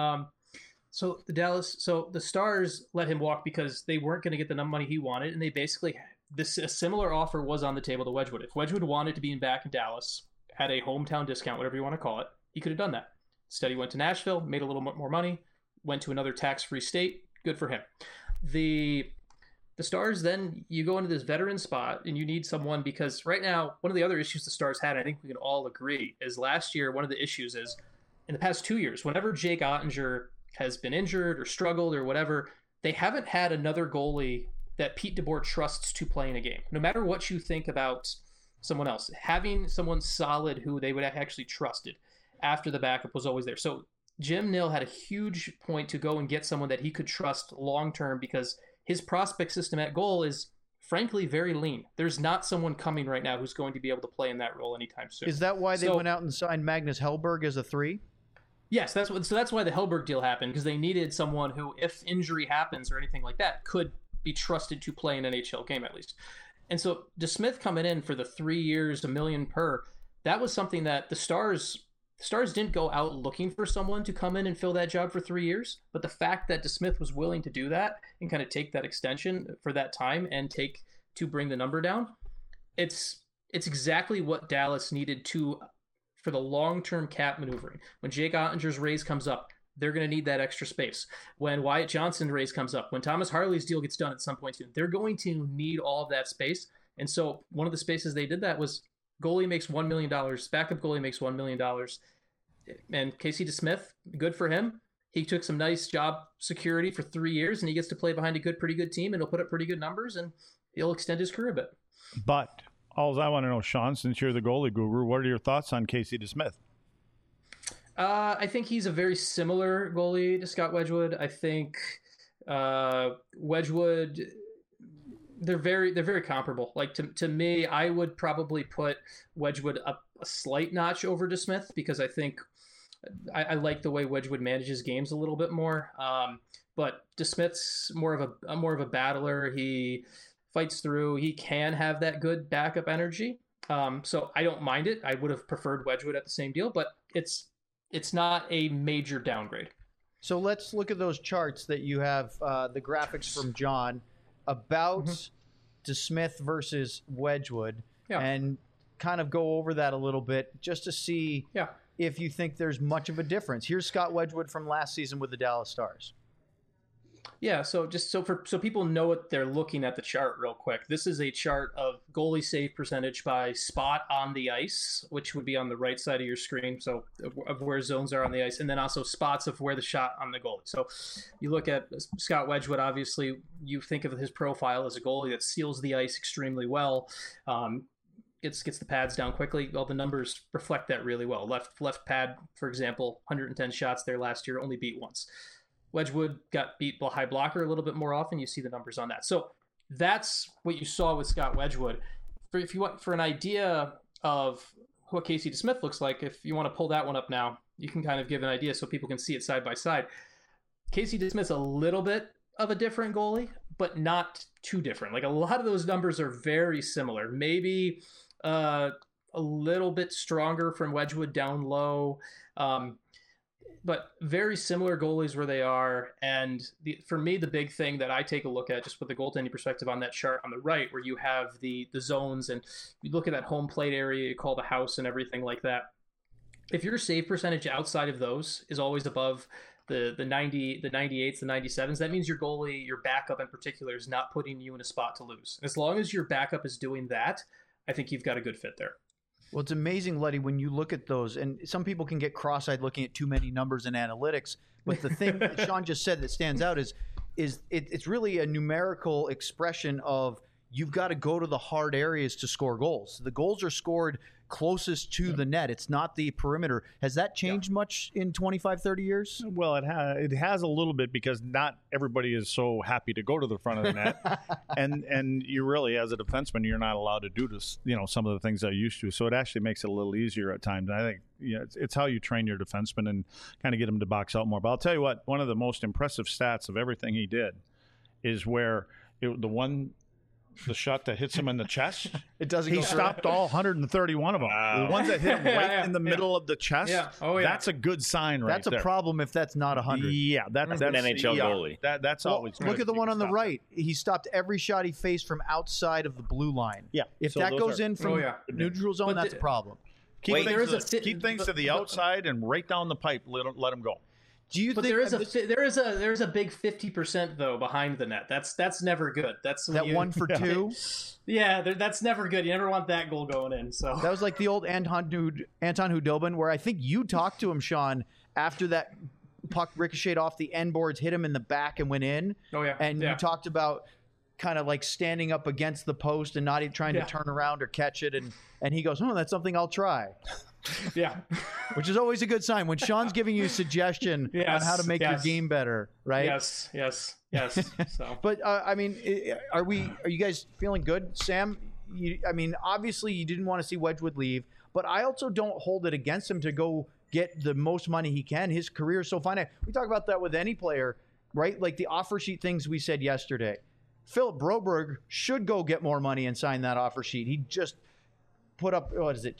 so the Stars let him walk because they weren't going to get the money he wanted, and they basically a similar offer was on the table to Wedgwood. If Wedgwood wanted to be back in Dallas, had a hometown discount, whatever you want to call it, he could have done that. Instead, he went to Nashville, made a little more money, went to another tax-free state. Good for him. The Stars, then you go into this veteran spot and you need someone because right now, one of the other issues the Stars had, I think we can all agree, is last year, one of the issues is in the past 2 years, whenever Jake Ottinger has been injured or struggled or whatever, they haven't had another goalie that Pete DeBoer trusts to play in a game. No matter what you think about someone else, having someone solid who they would have actually trusted after the backup was always there. So Jim Nill had a huge point to go and get someone that he could trust long-term because his prospect system at goal is frankly very lean. There's not someone coming right now who's going to be able to play in that role anytime soon. Is that why they went out and signed Magnus Hellberg as a 3? Yes, that's why the Hellberg deal happened, because they needed someone who, if injury happens or anything like that, could be trusted to play an NHL game at least. And so DeSmith coming in for the 3 years, $1 million per, that was something that the Stars didn't go out looking for someone to come in and fill that job for 3 years. But the fact that DeSmith was willing to do that and kind of take that extension for that time and to bring the number down, it's exactly what Dallas needed for the long-term cap maneuvering. When Jake Ottinger's raise comes up, they're going to need that extra space. When Wyatt Johnson's raise comes up, when Thomas Harley's deal gets done at some point soon, they're going to need all of that space. And so one of the spaces they did that was goalie makes $1 million, backup goalie makes $1 million. And Casey DeSmith, good for him. He took some nice job security for 3 years, and he gets to play behind a pretty good team, and he'll put up pretty good numbers, and he'll extend his career a bit. But all I want to know, Sean, since you're the goalie guru, what are your thoughts on Casey DeSmith? I think he's a very similar goalie to Scott Wedgwood. I think Wedgwood, they're very comparable. Like to me, I would probably put Wedgwood up a slight notch over DeSmith because I think I like the way Wedgwood manages games a little bit more. But DeSmith's more of a battler. He fights through. He can have that good backup energy. So I don't mind it. I would have preferred Wedgwood at the same deal, but it's not a major downgrade. So let's look at those charts that you have, the graphics from John about DeSmith versus Wedgwood, and kind of go over that a little bit just to see if you think there's much of a difference. Here's Scott Wedgwood from last season with the Dallas Stars. Yeah, so just so people know what they're looking at the chart real quick. This is a chart of goalie save percentage by spot on the ice, which would be on the right side of your screen, so of where zones are on the ice, and then also spots of where the shot on the goalie. So you look at Scott Wedgwood, obviously you think of his profile as a goalie that seals the ice extremely well. gets the pads down quickly. Well, the numbers reflect that really well. Left pad, for example, 110 shots there last year, only beat once. Wedgwood got beat high blocker a little bit more often. You see the numbers on that. So that's what you saw with Scott Wedgwood. If you want for an idea of what Casey DeSmith looks like, if you want to pull that one up now, you can kind of give an idea so people can see it side by side. Casey DeSmith's a little bit of a different goalie, but not too different. Like a lot of those numbers are very similar. Maybe a little bit stronger from Wedgwood down low, but very similar goalies where they are. And for me, the big thing that I take a look at, just with the goaltending perspective on that chart on the right, where you have the zones and you look at that home plate area you call the house and everything like that. If your save percentage outside of those is always above the 90, the 98s, the 97s, that means your goalie, your backup in particular, is not putting you in a spot to lose. As long as your backup is doing that, I think you've got a good fit there. Well, it's amazing, Letty, when you look at those, and some people can get cross-eyed looking at too many numbers and analytics, but the thing that Sean just said that stands out is it's really a numerical expression of you've got to go to the hard areas to score goals. The goals are scored closest to the net. It's not the perimeter. Has that changed much in 25, 30 years? Well, it has a little bit because not everybody is so happy to go to the front of the net. and you really, as a defenseman, you're not allowed to do this, some of the things I used to. So it actually makes it a little easier at times. And I think it's how you train your defenseman and kind of get them to box out more. But I'll tell you what, one of the most impressive stats of everything he did is where the shot that hits him in the chest, he stopped all 131 of them. Wow. The ones that hit him right in the middle of the chest, that's a good sign right there. That's a problem if that's not 100. Yeah, that's an NHL goalie. That's always look at the one on the right. He stopped every shot he faced from outside of the blue line. Yeah. If that goes in from neutral zone, that's a problem. Keep things to the outside and right down the pipe. Let him go. Do you think there is a big 50% though behind the net? That's never good. That's that 1 for 2. Yeah, that's never good. You never want that goal going in. So that was like the old Anton Hudobin, where I think you talked to him, Sean, after that puck ricocheted off the end boards, hit him in the back and went in. Oh yeah, and you talked about kind of like standing up against the post and not even trying to turn around or catch it, and he goes, "Oh, that's something I'll try." Yeah, which is always a good sign when Sean's giving you a suggestion on how to make your game better, right? Yes. So, but I mean, are you guys feeling good, Sam? Obviously you didn't want to see Wedgwood leave, but I also don't hold it against him to go get the most money he can. His career is so finite. We talk about that with any player, right? Like the offer sheet things we said yesterday. Philip Broberg should go get more money and sign that offer sheet. He just put up,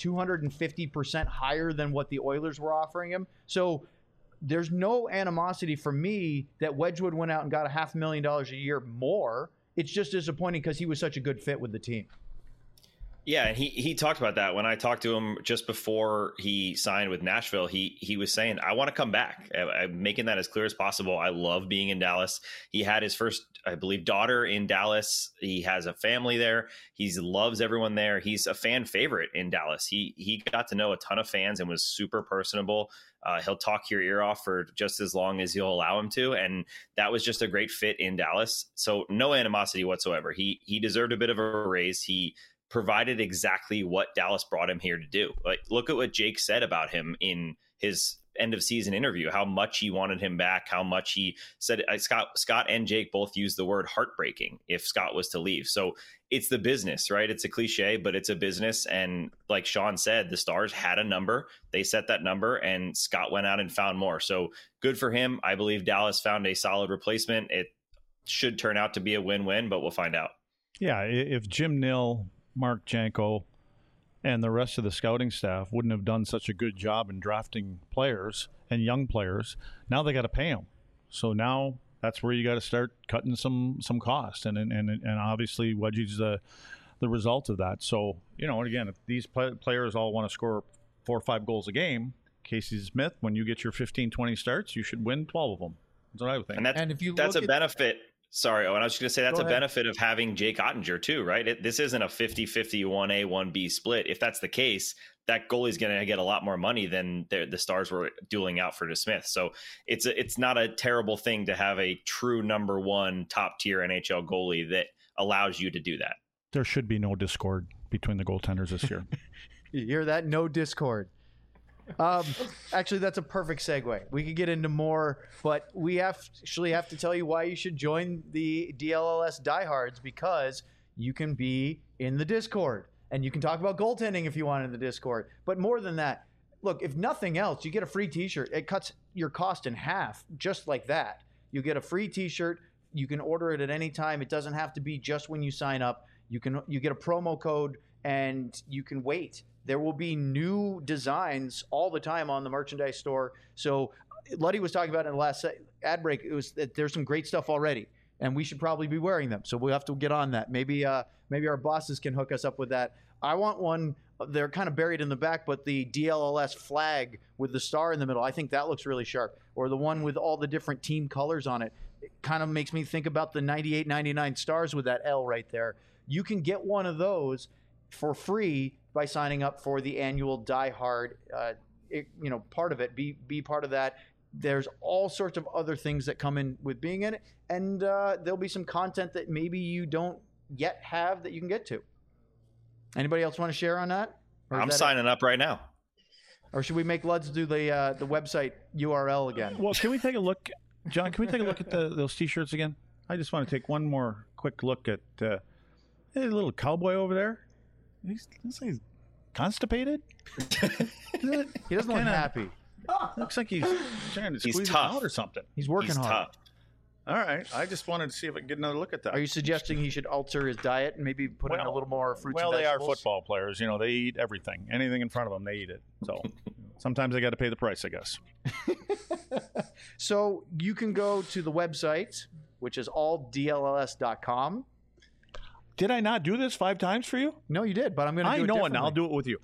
250% higher than what the Oilers were offering him. So there's no animosity for me that Wedgwood went out and got $500,000 a year more. It's just disappointing because he was such a good fit with the team. Yeah, and he talked about that when I talked to him just before he signed with Nashville. He was saying, I want to come back. I'm making that as clear as possible. I love being in Dallas. He had his first, I believe, daughter in Dallas. He has a family there. He loves everyone there. He's a fan favorite in Dallas. He got to know a ton of fans and was super personable. He'll talk your ear off for just as long as you'll allow him to. And that was just a great fit in Dallas. So no animosity whatsoever. He deserved a bit of a raise. He provided exactly what Dallas brought him here to do. Like, look at what Jake said about him in his end of season interview, how much he wanted him back, how much he said Scott and Jake both used the word heartbreaking if Scott was to leave. So it's the business, right? It's a cliche, but it's a business. And like Sean said, the Stars had a number, they set that number, and Scott went out and found more. So good for him. I believe Dallas found a solid replacement. It should turn out to be a win-win, but we'll find out. Yeah. If Jim Nill, Mark Janko, and the rest of the scouting staff wouldn't have done such a good job in drafting players and young players, now they got to pay them. So now that's where you got to start cutting some cost, and obviously Wedgie's the result of that. So and again, if these players all want to score 4 or 5 goals a game, Casey Smith, when you get your 15-20 starts, you should win 12 of them. That's what I would think. And if you that's a benefit. Sorry, Owen, I was just going to say that's a benefit of having Jake Ottinger too, right? This isn't a 50-50 1A, 1B split. If that's the case, that goalie's going to get a lot more money than the Stars were dueling out for DeSmith. So it's not a terrible thing to have a true number 1 top tier NHL goalie that allows you to do that. There should be no discord between the goaltenders this year. You hear that? No discord. Actually, that's a perfect segue. We could get into more, but we actually have to tell you why you should join the DLLS Diehards, because you can be in the Discord and you can talk about goaltending if you want in the Discord. But more than that, look, if nothing else, you get a free t-shirt. It cuts your cost in half just like that. You get a free t-shirt. You can order it at any time. It doesn't have to be just when you sign up. You get a promo code and you can wait. There will be new designs all the time on the merchandise store. So Luddy was talking about in the last ad break, it was that there's some great stuff already, and we should probably be wearing them. So we'll have to get on that. Maybe our bosses can hook us up with that. I want one. They're kind of buried in the back, but the DLLS flag with the star in the middle, I think that looks really sharp. Or the one with all the different team colors on it. It kind of makes me think about the 98-99 stars with that L right there. You can get one of those for free by signing up for the annual Die Hard, part of it. Be part of that. There's all sorts of other things that come in with being in it, and there'll be some content that maybe you don't yet have that you can get to. Anybody else want to share on that? I'm signing up right now. Or should we make Luds do the website URL again? Well, can we take a look, John? Can we take a look at those T-shirts again? I just want to take one more quick look at a little cowboy over there. He's constipated. He doesn't look happy. Looks like he's trying to squeeze it out or something. He's working hard. Tough. All right. I just wanted to see if I could get another look at that. Are you suggesting he should alter his diet and maybe put in a little more fruits and vegetables? Well, they are football players. They eat everything. Anything in front of them, they eat it. So sometimes they got to pay the price, I guess. So you can go to the website, which is alldlls.com. Did I not do this 5 times for you? No, you did, but I'm going to do it differently. I know, and I'll do it with you.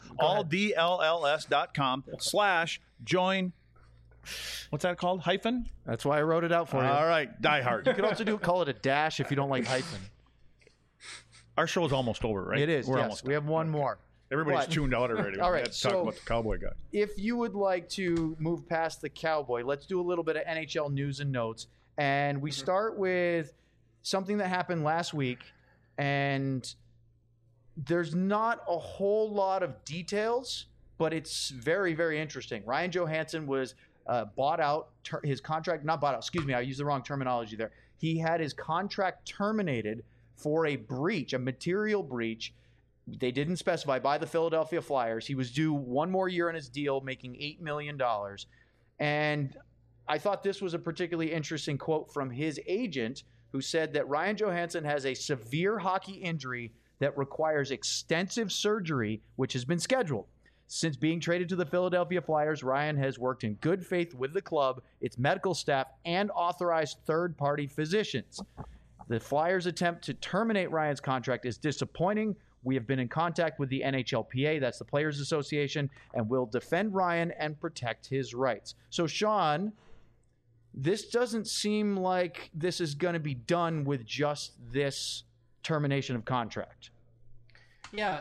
alldlls.com/join. What's that called? Hyphen? That's why I wrote it out for you. All right, Die Hard. You could also call it a dash if you don't like hyphen. Our show is almost over, right? It is, We're yes. almost We have one more. Everybody's tuned out already. All right, Let's talk about the cowboy guy. If you would like to move past the cowboy, let's do a little bit of NHL news and notes. And we start with something that happened last week. And there's not a whole lot of details, but it's very, very interesting. Ryan Johansson was bought out. His contract, not bought out, excuse me, I used the wrong terminology there. He had his contract terminated for a breach, a material breach. They didn't specify, by the Philadelphia Flyers. He was due one more year on his deal, making $8 million. And I thought this was a particularly interesting quote from his agent, who said that Ryan Johansson has a severe hockey injury that requires extensive surgery, which has been scheduled. Since being traded to the Philadelphia Flyers, Ryan has worked in good faith with the club, its medical staff, and authorized third-party physicians. The Flyers' attempt to terminate Ryan's contract is disappointing. We have been in contact with the NHLPA, that's the Players Association, and will defend Ryan and protect his rights. So, Sean, this doesn't seem like this is going to be done with just this termination of contract. Yeah,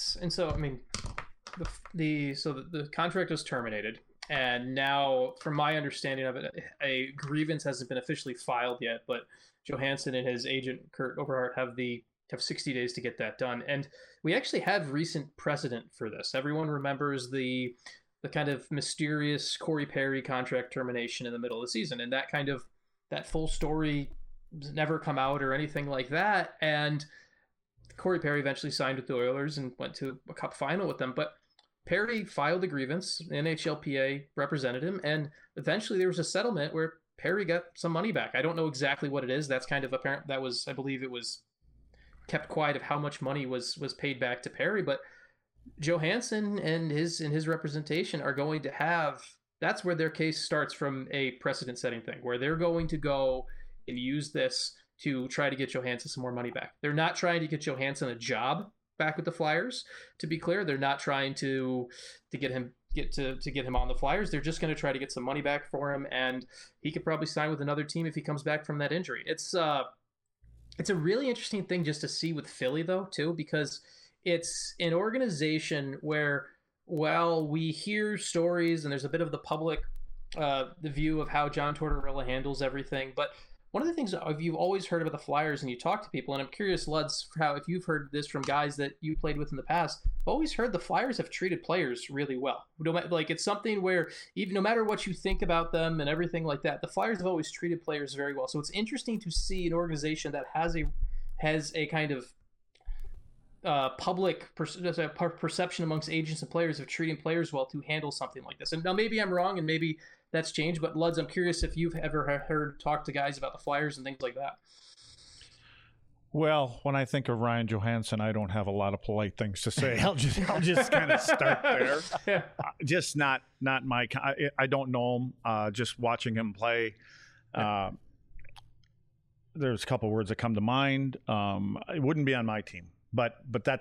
the contract was terminated, and now, from my understanding of it, a grievance hasn't been officially filed yet, but Johansson and his agent Kurt Overhart have 60 days to get that done. And we actually have recent precedent for this. Everyone remembers the kind of mysterious Corey Perry contract termination in the middle of the season, and that full story never come out or anything like that. And Corey Perry eventually signed with the Oilers and went to a cup final with them. But Perry filed a grievance, NHLPA represented him, and eventually there was a settlement where Perry got some money back. I don't know exactly what it is. That's kind of apparent. I believe it was kept quiet of how much money was paid back to Perry, but Johansson and his representation are going to have, that's where their case starts from, a precedent setting thing where they're going to go and use this to try to get Johansson some more money back. They're not trying to get Johansson a job back with the Flyers, to be clear. They're not trying to get him on the Flyers. They're just going to try to get some money back for him, and he could probably sign with another team if he comes back from that injury. It's a really interesting thing just to see with Philly though too, because it's an organization where, while we hear stories and there's a bit of the public the view of how John Tortorella handles everything, but one of the things you've always heard about the Flyers, and you talk to people, and I'm curious, Luds, how if you've heard this from guys that you played with in the past, I've always heard the Flyers have treated players really well. Like, it's something where even no matter what you think about them and everything like that, the Flyers have always treated players very well. So it's interesting to see an organization that has a kind of public perception amongst agents and players of treating players well to handle something like this. And now maybe I'm wrong, and maybe that's changed, but Luds, I'm curious if you've ever talk to guys about the Flyers and things like that. Well, when I think of Ryan Johansson, I don't have a lot of polite things to say. I'll just kind of start there. Yeah. Just not my. I don't know him. Just watching him play, there's a couple words that come to mind. It wouldn't be on my team, but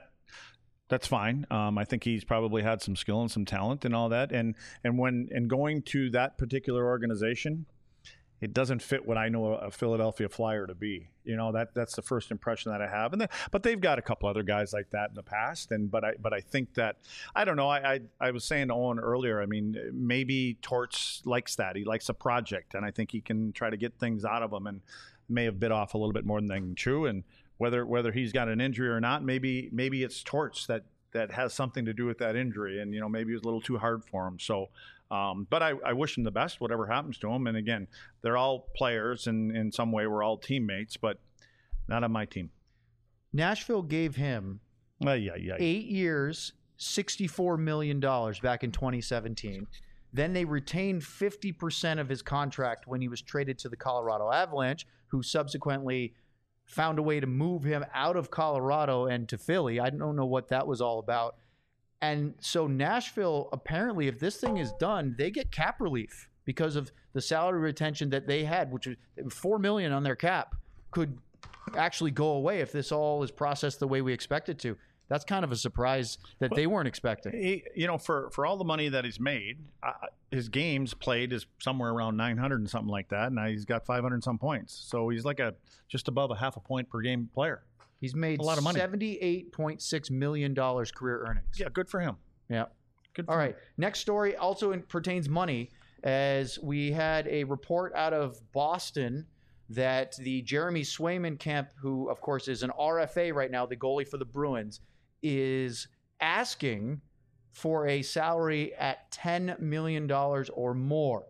that's fine. I think he's probably had some skill and some talent and all that. And going to that particular organization, it doesn't fit what I know a Philadelphia Flyer to be. That's the first impression that I have. But they've got a couple other guys like that in the past. But I think that, I don't know. I was saying to Owen earlier, I mean, maybe Torts likes that. He likes a project, and I think he can try to get things out of them, and may have bit off a little bit more than they can chew. And whether he's got an injury or not, maybe it's Torts that has something to do with that injury, and maybe it was a little too hard for him. So, but I wish him the best, whatever happens to him. And again, they're all players, and in some way we're all teammates, but not on my team. Nashville gave him 8 years, $64 million back in 2017. Then they retained 50% of his contract when he was traded to the Colorado Avalanche, who subsequently found a way to move him out of Colorado and to Philly. I don't know what that was all about. And so Nashville, apparently, if this thing is done, they get cap relief because of the salary retention that they had, which was $4 million on their cap, could actually go away if this all is processed the way we expect it to. That's kind of a surprise that they weren't expecting. For all the money that he's made, his games played is somewhere around 900 and something like that. Now he's got 500 and some points. So he's like just above a half a point per game player. He's made a lot of money. $78.6 million career earnings. Yeah, good for him. Yeah. Good for All him. right. Next story also pertains money, as we had a report out of Boston that the Jeremy Swayman camp, who, of course, is an RFA right now, the goalie for the Bruins, is asking for a salary at $10 million or more.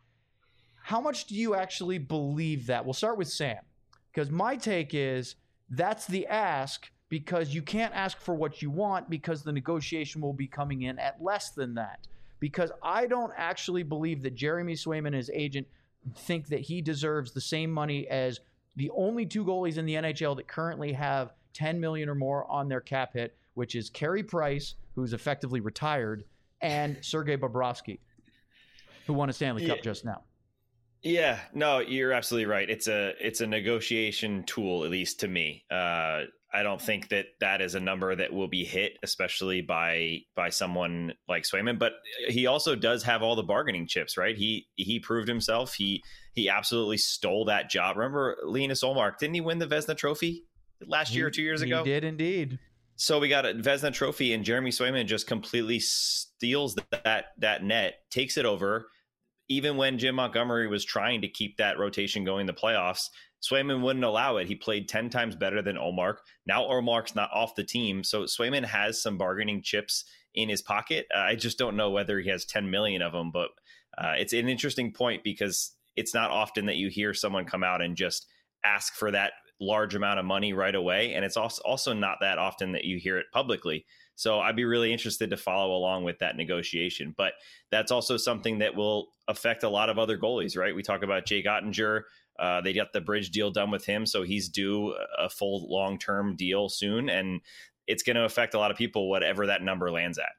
How much do you actually believe that? We'll start with Sam, because my take is that's the ask, because you can't ask for what you want, because the negotiation will be coming in at less than that. Because I don't actually believe that Jeremy Swayman and his agent think that he deserves the same money as the only two goalies in the NHL that currently have $10 million or more on their cap hit, which is Carey Price, who's effectively retired, and Sergei Bobrovsky, who won a Stanley Cup just now. Yeah, no, you're absolutely right. It's a negotiation tool, at least to me. I don't think that is a number that will be hit, especially by someone like Swayman. But he also does have all the bargaining chips, right? He proved himself. He absolutely stole that job. Remember Linus Ullmark? Didn't he win the Vezina Trophy last year or 2 years ago? He did indeed. So we got a Vezina Trophy, and Jeremy Swayman just completely steals that net, takes it over. Even when Jim Montgomery was trying to keep that rotation going in the playoffs, Swayman wouldn't allow it. He played 10 times better than Ullmark. Now Ullmark's not off the team, so Swayman has some bargaining chips in his pocket. I just don't know whether he has 10 million of them, but it's an interesting point, because it's not often that you hear someone come out and just ask for that large amount of money right away. And it's also not that often that you hear it publicly. So I'd be really interested to follow along with that negotiation. But that's also something that will affect a lot of other goalies, right? We talk about Jake Ottinger. They got the bridge deal done with him, so he's due a full long-term deal soon. And it's going to affect a lot of people, whatever that number lands at.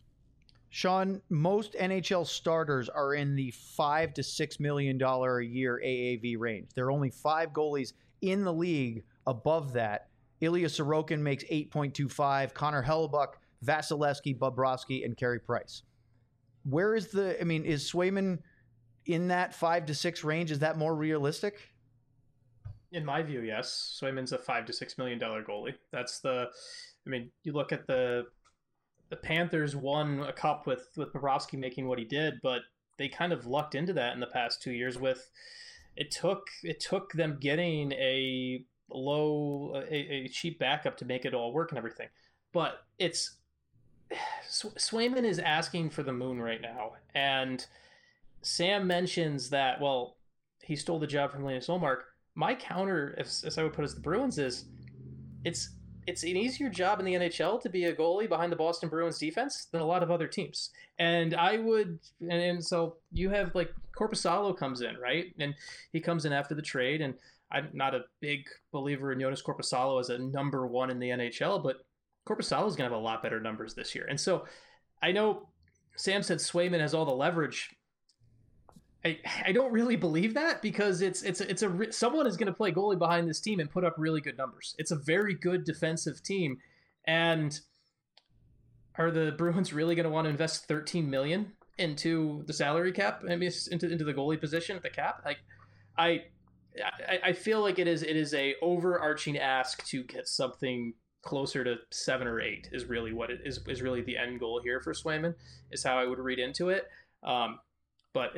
Sean, most NHL starters are in the $5 to $6 million a year AAV range. There are only 5 goalies in the league above that. Ilya Sorokin makes 8.25. Connor Hellebuyck, Vasilevsky, Bobrovsky, and Carey Price. Where is is Swayman in that 5 to 6 range? Is that more realistic? In my view, yes. Swayman's a $5 to $6 million goalie. You look at the Panthers won a cup with Bobrovsky making what he did, but they kind of lucked into that in the past 2 years with it took them getting a cheap backup to make it all work and everything. But Swayman is asking for the moon right now, and Sam mentions that, well, he stole the job from Linus Ullmark. My counter, as I would put it, as the Bruins, is it's an easier job in the NHL to be a goalie behind the Boston Bruins defense than a lot of other teams. And so you have like Korpisalo comes in, right? And he comes in after the trade, and I'm not a big believer in Joonas Korpisalo as a number one in the NHL, but Korpisalo is going to have a lot better numbers this year. And so I know Sam said Swayman has all the leverage. I don't really believe that, because someone is going to play goalie behind this team and put up really good numbers. It's a very good defensive team, and are the Bruins really going to want to invest $13 million into the salary cap? I mean, into the goalie position at the cap? Like, I feel like it is a overarching ask to get something closer to 7 or 8 is really what it is really the end goal here for Swayman, is how I would read into it. But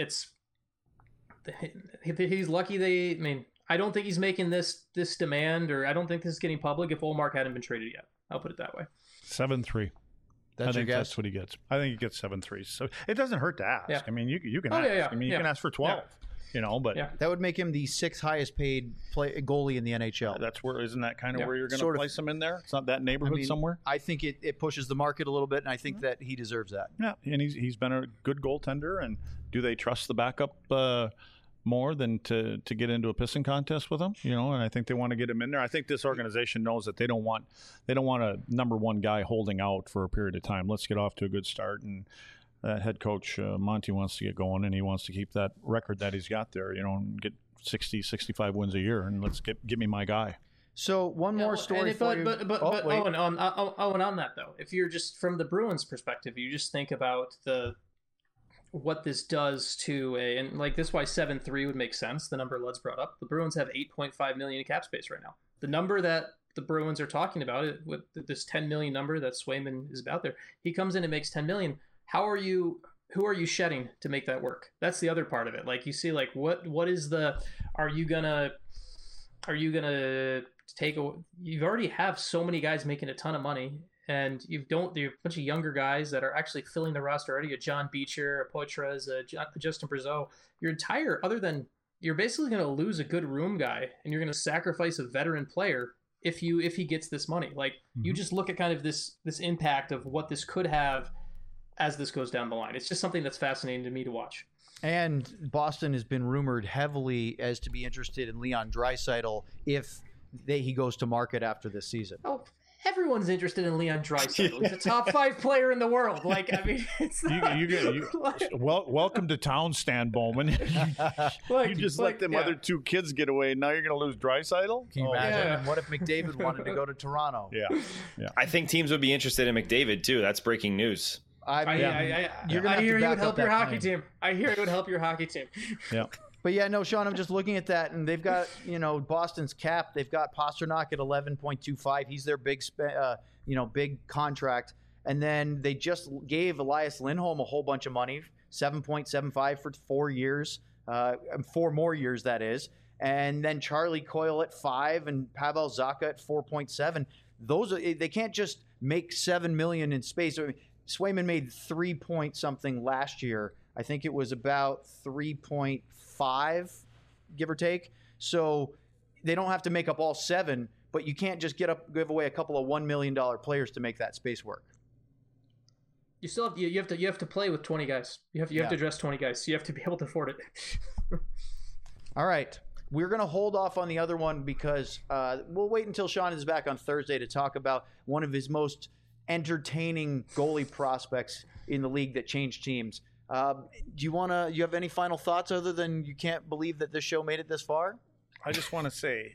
he's lucky I don't think he's making this demand, or I don't think this is getting public if Ullmark hadn't been traded yet. I'll put it that way. 7-3. I think that's what he gets. I think he gets 7-3. So it doesn't hurt to ask. Yeah. I mean, you can ask. Yeah. I mean, you can ask for 12. Yeah. But that would make him the 6th highest paid goalie in the NHL. That's where, isn't that kind of where you're going to place him in there? It's not that neighborhood somewhere. I think it pushes the market a little bit, and I think that he deserves that. Yeah, and he's been a good goaltender. And do they trust the backup more than to get into a pissing contest with him? And I think they want to get him in there. I think this organization knows that they don't want a number one guy holding out for a period of time. Let's get off to a good start, and head coach Monty wants to get going, and he wants to keep that record that he's got there, and get 60, 65 wins a year, and let's give me my guy. So one more story for you. But Owen, on that though, if you're just from the Bruins perspective, you just think about what this does to and like this, why 7-3 would make sense. The number Lud's brought up. The Bruins have $8.5 million in cap space right now. The number that the Bruins are talking about, with this $10 million number that Swayman is about there, he comes in and makes $10 million. Who are you shedding to make that work? That's the other part of it. Like, you see, like, what is are you gonna take you already have so many guys making a ton of money, and you have a bunch of younger guys that are actually filling the roster already. A John Beecher, a Poitras, a Justin Brazeau. You're basically going to lose a good room guy, and you're going to sacrifice a veteran player if he gets this money. Like, you just look at kind of this impact of what this could have as this goes down the line. It's just something that's fascinating to me to watch. And Boston has been rumored heavily as to be interested in Leon Draisaitl if he goes to market after this season. Oh, everyone's interested in Leon Draisaitl. He's a top 5 player in the world. Like, I mean, it's welcome to town, Stan Bowman. You just let them other 2 kids get away, and now you're going to lose Draisaitl? Can you imagine? And what if McDavid wanted to go to Toronto? Yeah. I think teams would be interested in McDavid too. That's breaking news. I hear you would help your hockey team. I hear it would help your hockey team. Yeah. But yeah, no, Sean, I'm just looking at that, and they've got, Boston's cap. They've got Pastrnak at 11.25. He's their big contract. And then they just gave Elias Lindholm a whole bunch of money, 7.75 for 4 years, 4 more years, that is. And then Charlie Coyle at 5 and Pavel Zacha at 4.7. They can't just make $7 million in space. I mean, Swayman made 3 point something last year. I think it was about 3.5, give or take. So they don't have to make up all 7, but you can't just give away a couple of $1 million players to make that space work. You still have to play with 20 guys. You have to dress 20 guys. So you have to be able to afford it. All right. We're going to hold off on the other one because we'll wait until Sean is back on Thursday to talk about one of his most entertaining goalie prospects in the league that changed teams. Do you have any final thoughts other than you can't believe that this show made it this far? I just want to say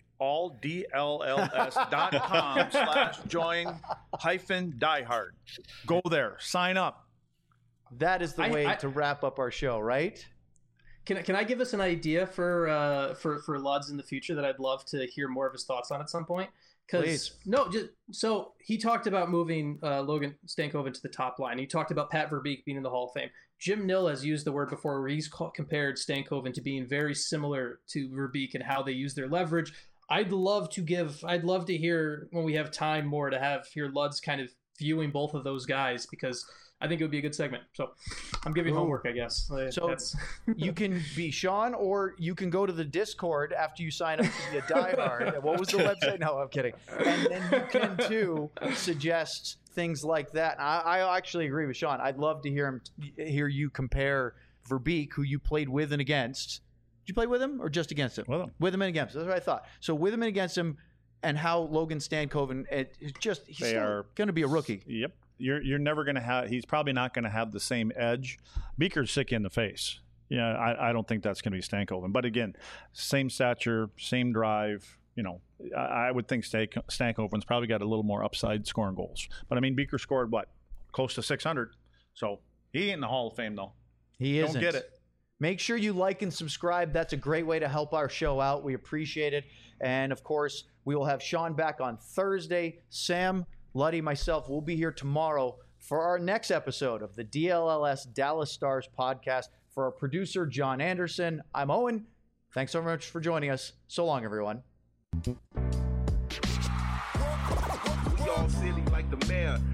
alldlls.com/join-diehard. Go there, sign up. That is the way to wrap up our show, right? Can I give us an idea for Luds in the future that I'd love to hear more of his thoughts on at some point? Because no, just so he talked about moving Logan Stankoven to the top line. He talked about Pat Verbeek being in the Hall of Fame. Jim Nill has used the word before where he's compared Stankoven to being very similar to Verbeek and how they use their leverage. I'd love to hear when we have time more to hear Luds kind of viewing both of those guys, because I think it would be a good segment. So I'm giving homework, I guess. So you can be Sean, or you can go to the Discord after you sign up to be a diehard. What was the website? No, I'm kidding. And then you can too suggest things like that. I actually agree with Sean. I'd love to hear you compare Verbeek, who you played with and against. Did you play with him or just against him? With him and against him. That's what I thought. So with him and against him, and how Logan Stankoven, he's still going to be a rookie. Yep. You're never going to have. He's probably not going to have the same edge. Beaker's sick in the face. Yeah, I don't think that's going to be Stankoven. But again, same stature, same drive. I would think Stankoven's probably got a little more upside scoring goals. But I mean, Beaker scored close to 600. So he ain't in the Hall of Fame though. He isn't. Don't get it. Make sure you like and subscribe. That's a great way to help our show out. We appreciate it. And of course, we will have Sean back on Thursday. Sam, Luddy, myself will be here tomorrow for our next episode of the DLLS Dallas Stars podcast. For our producer, John Anderson, I'm Owen. Thanks so much for joining us. So long, everyone. We all silly like the mayor.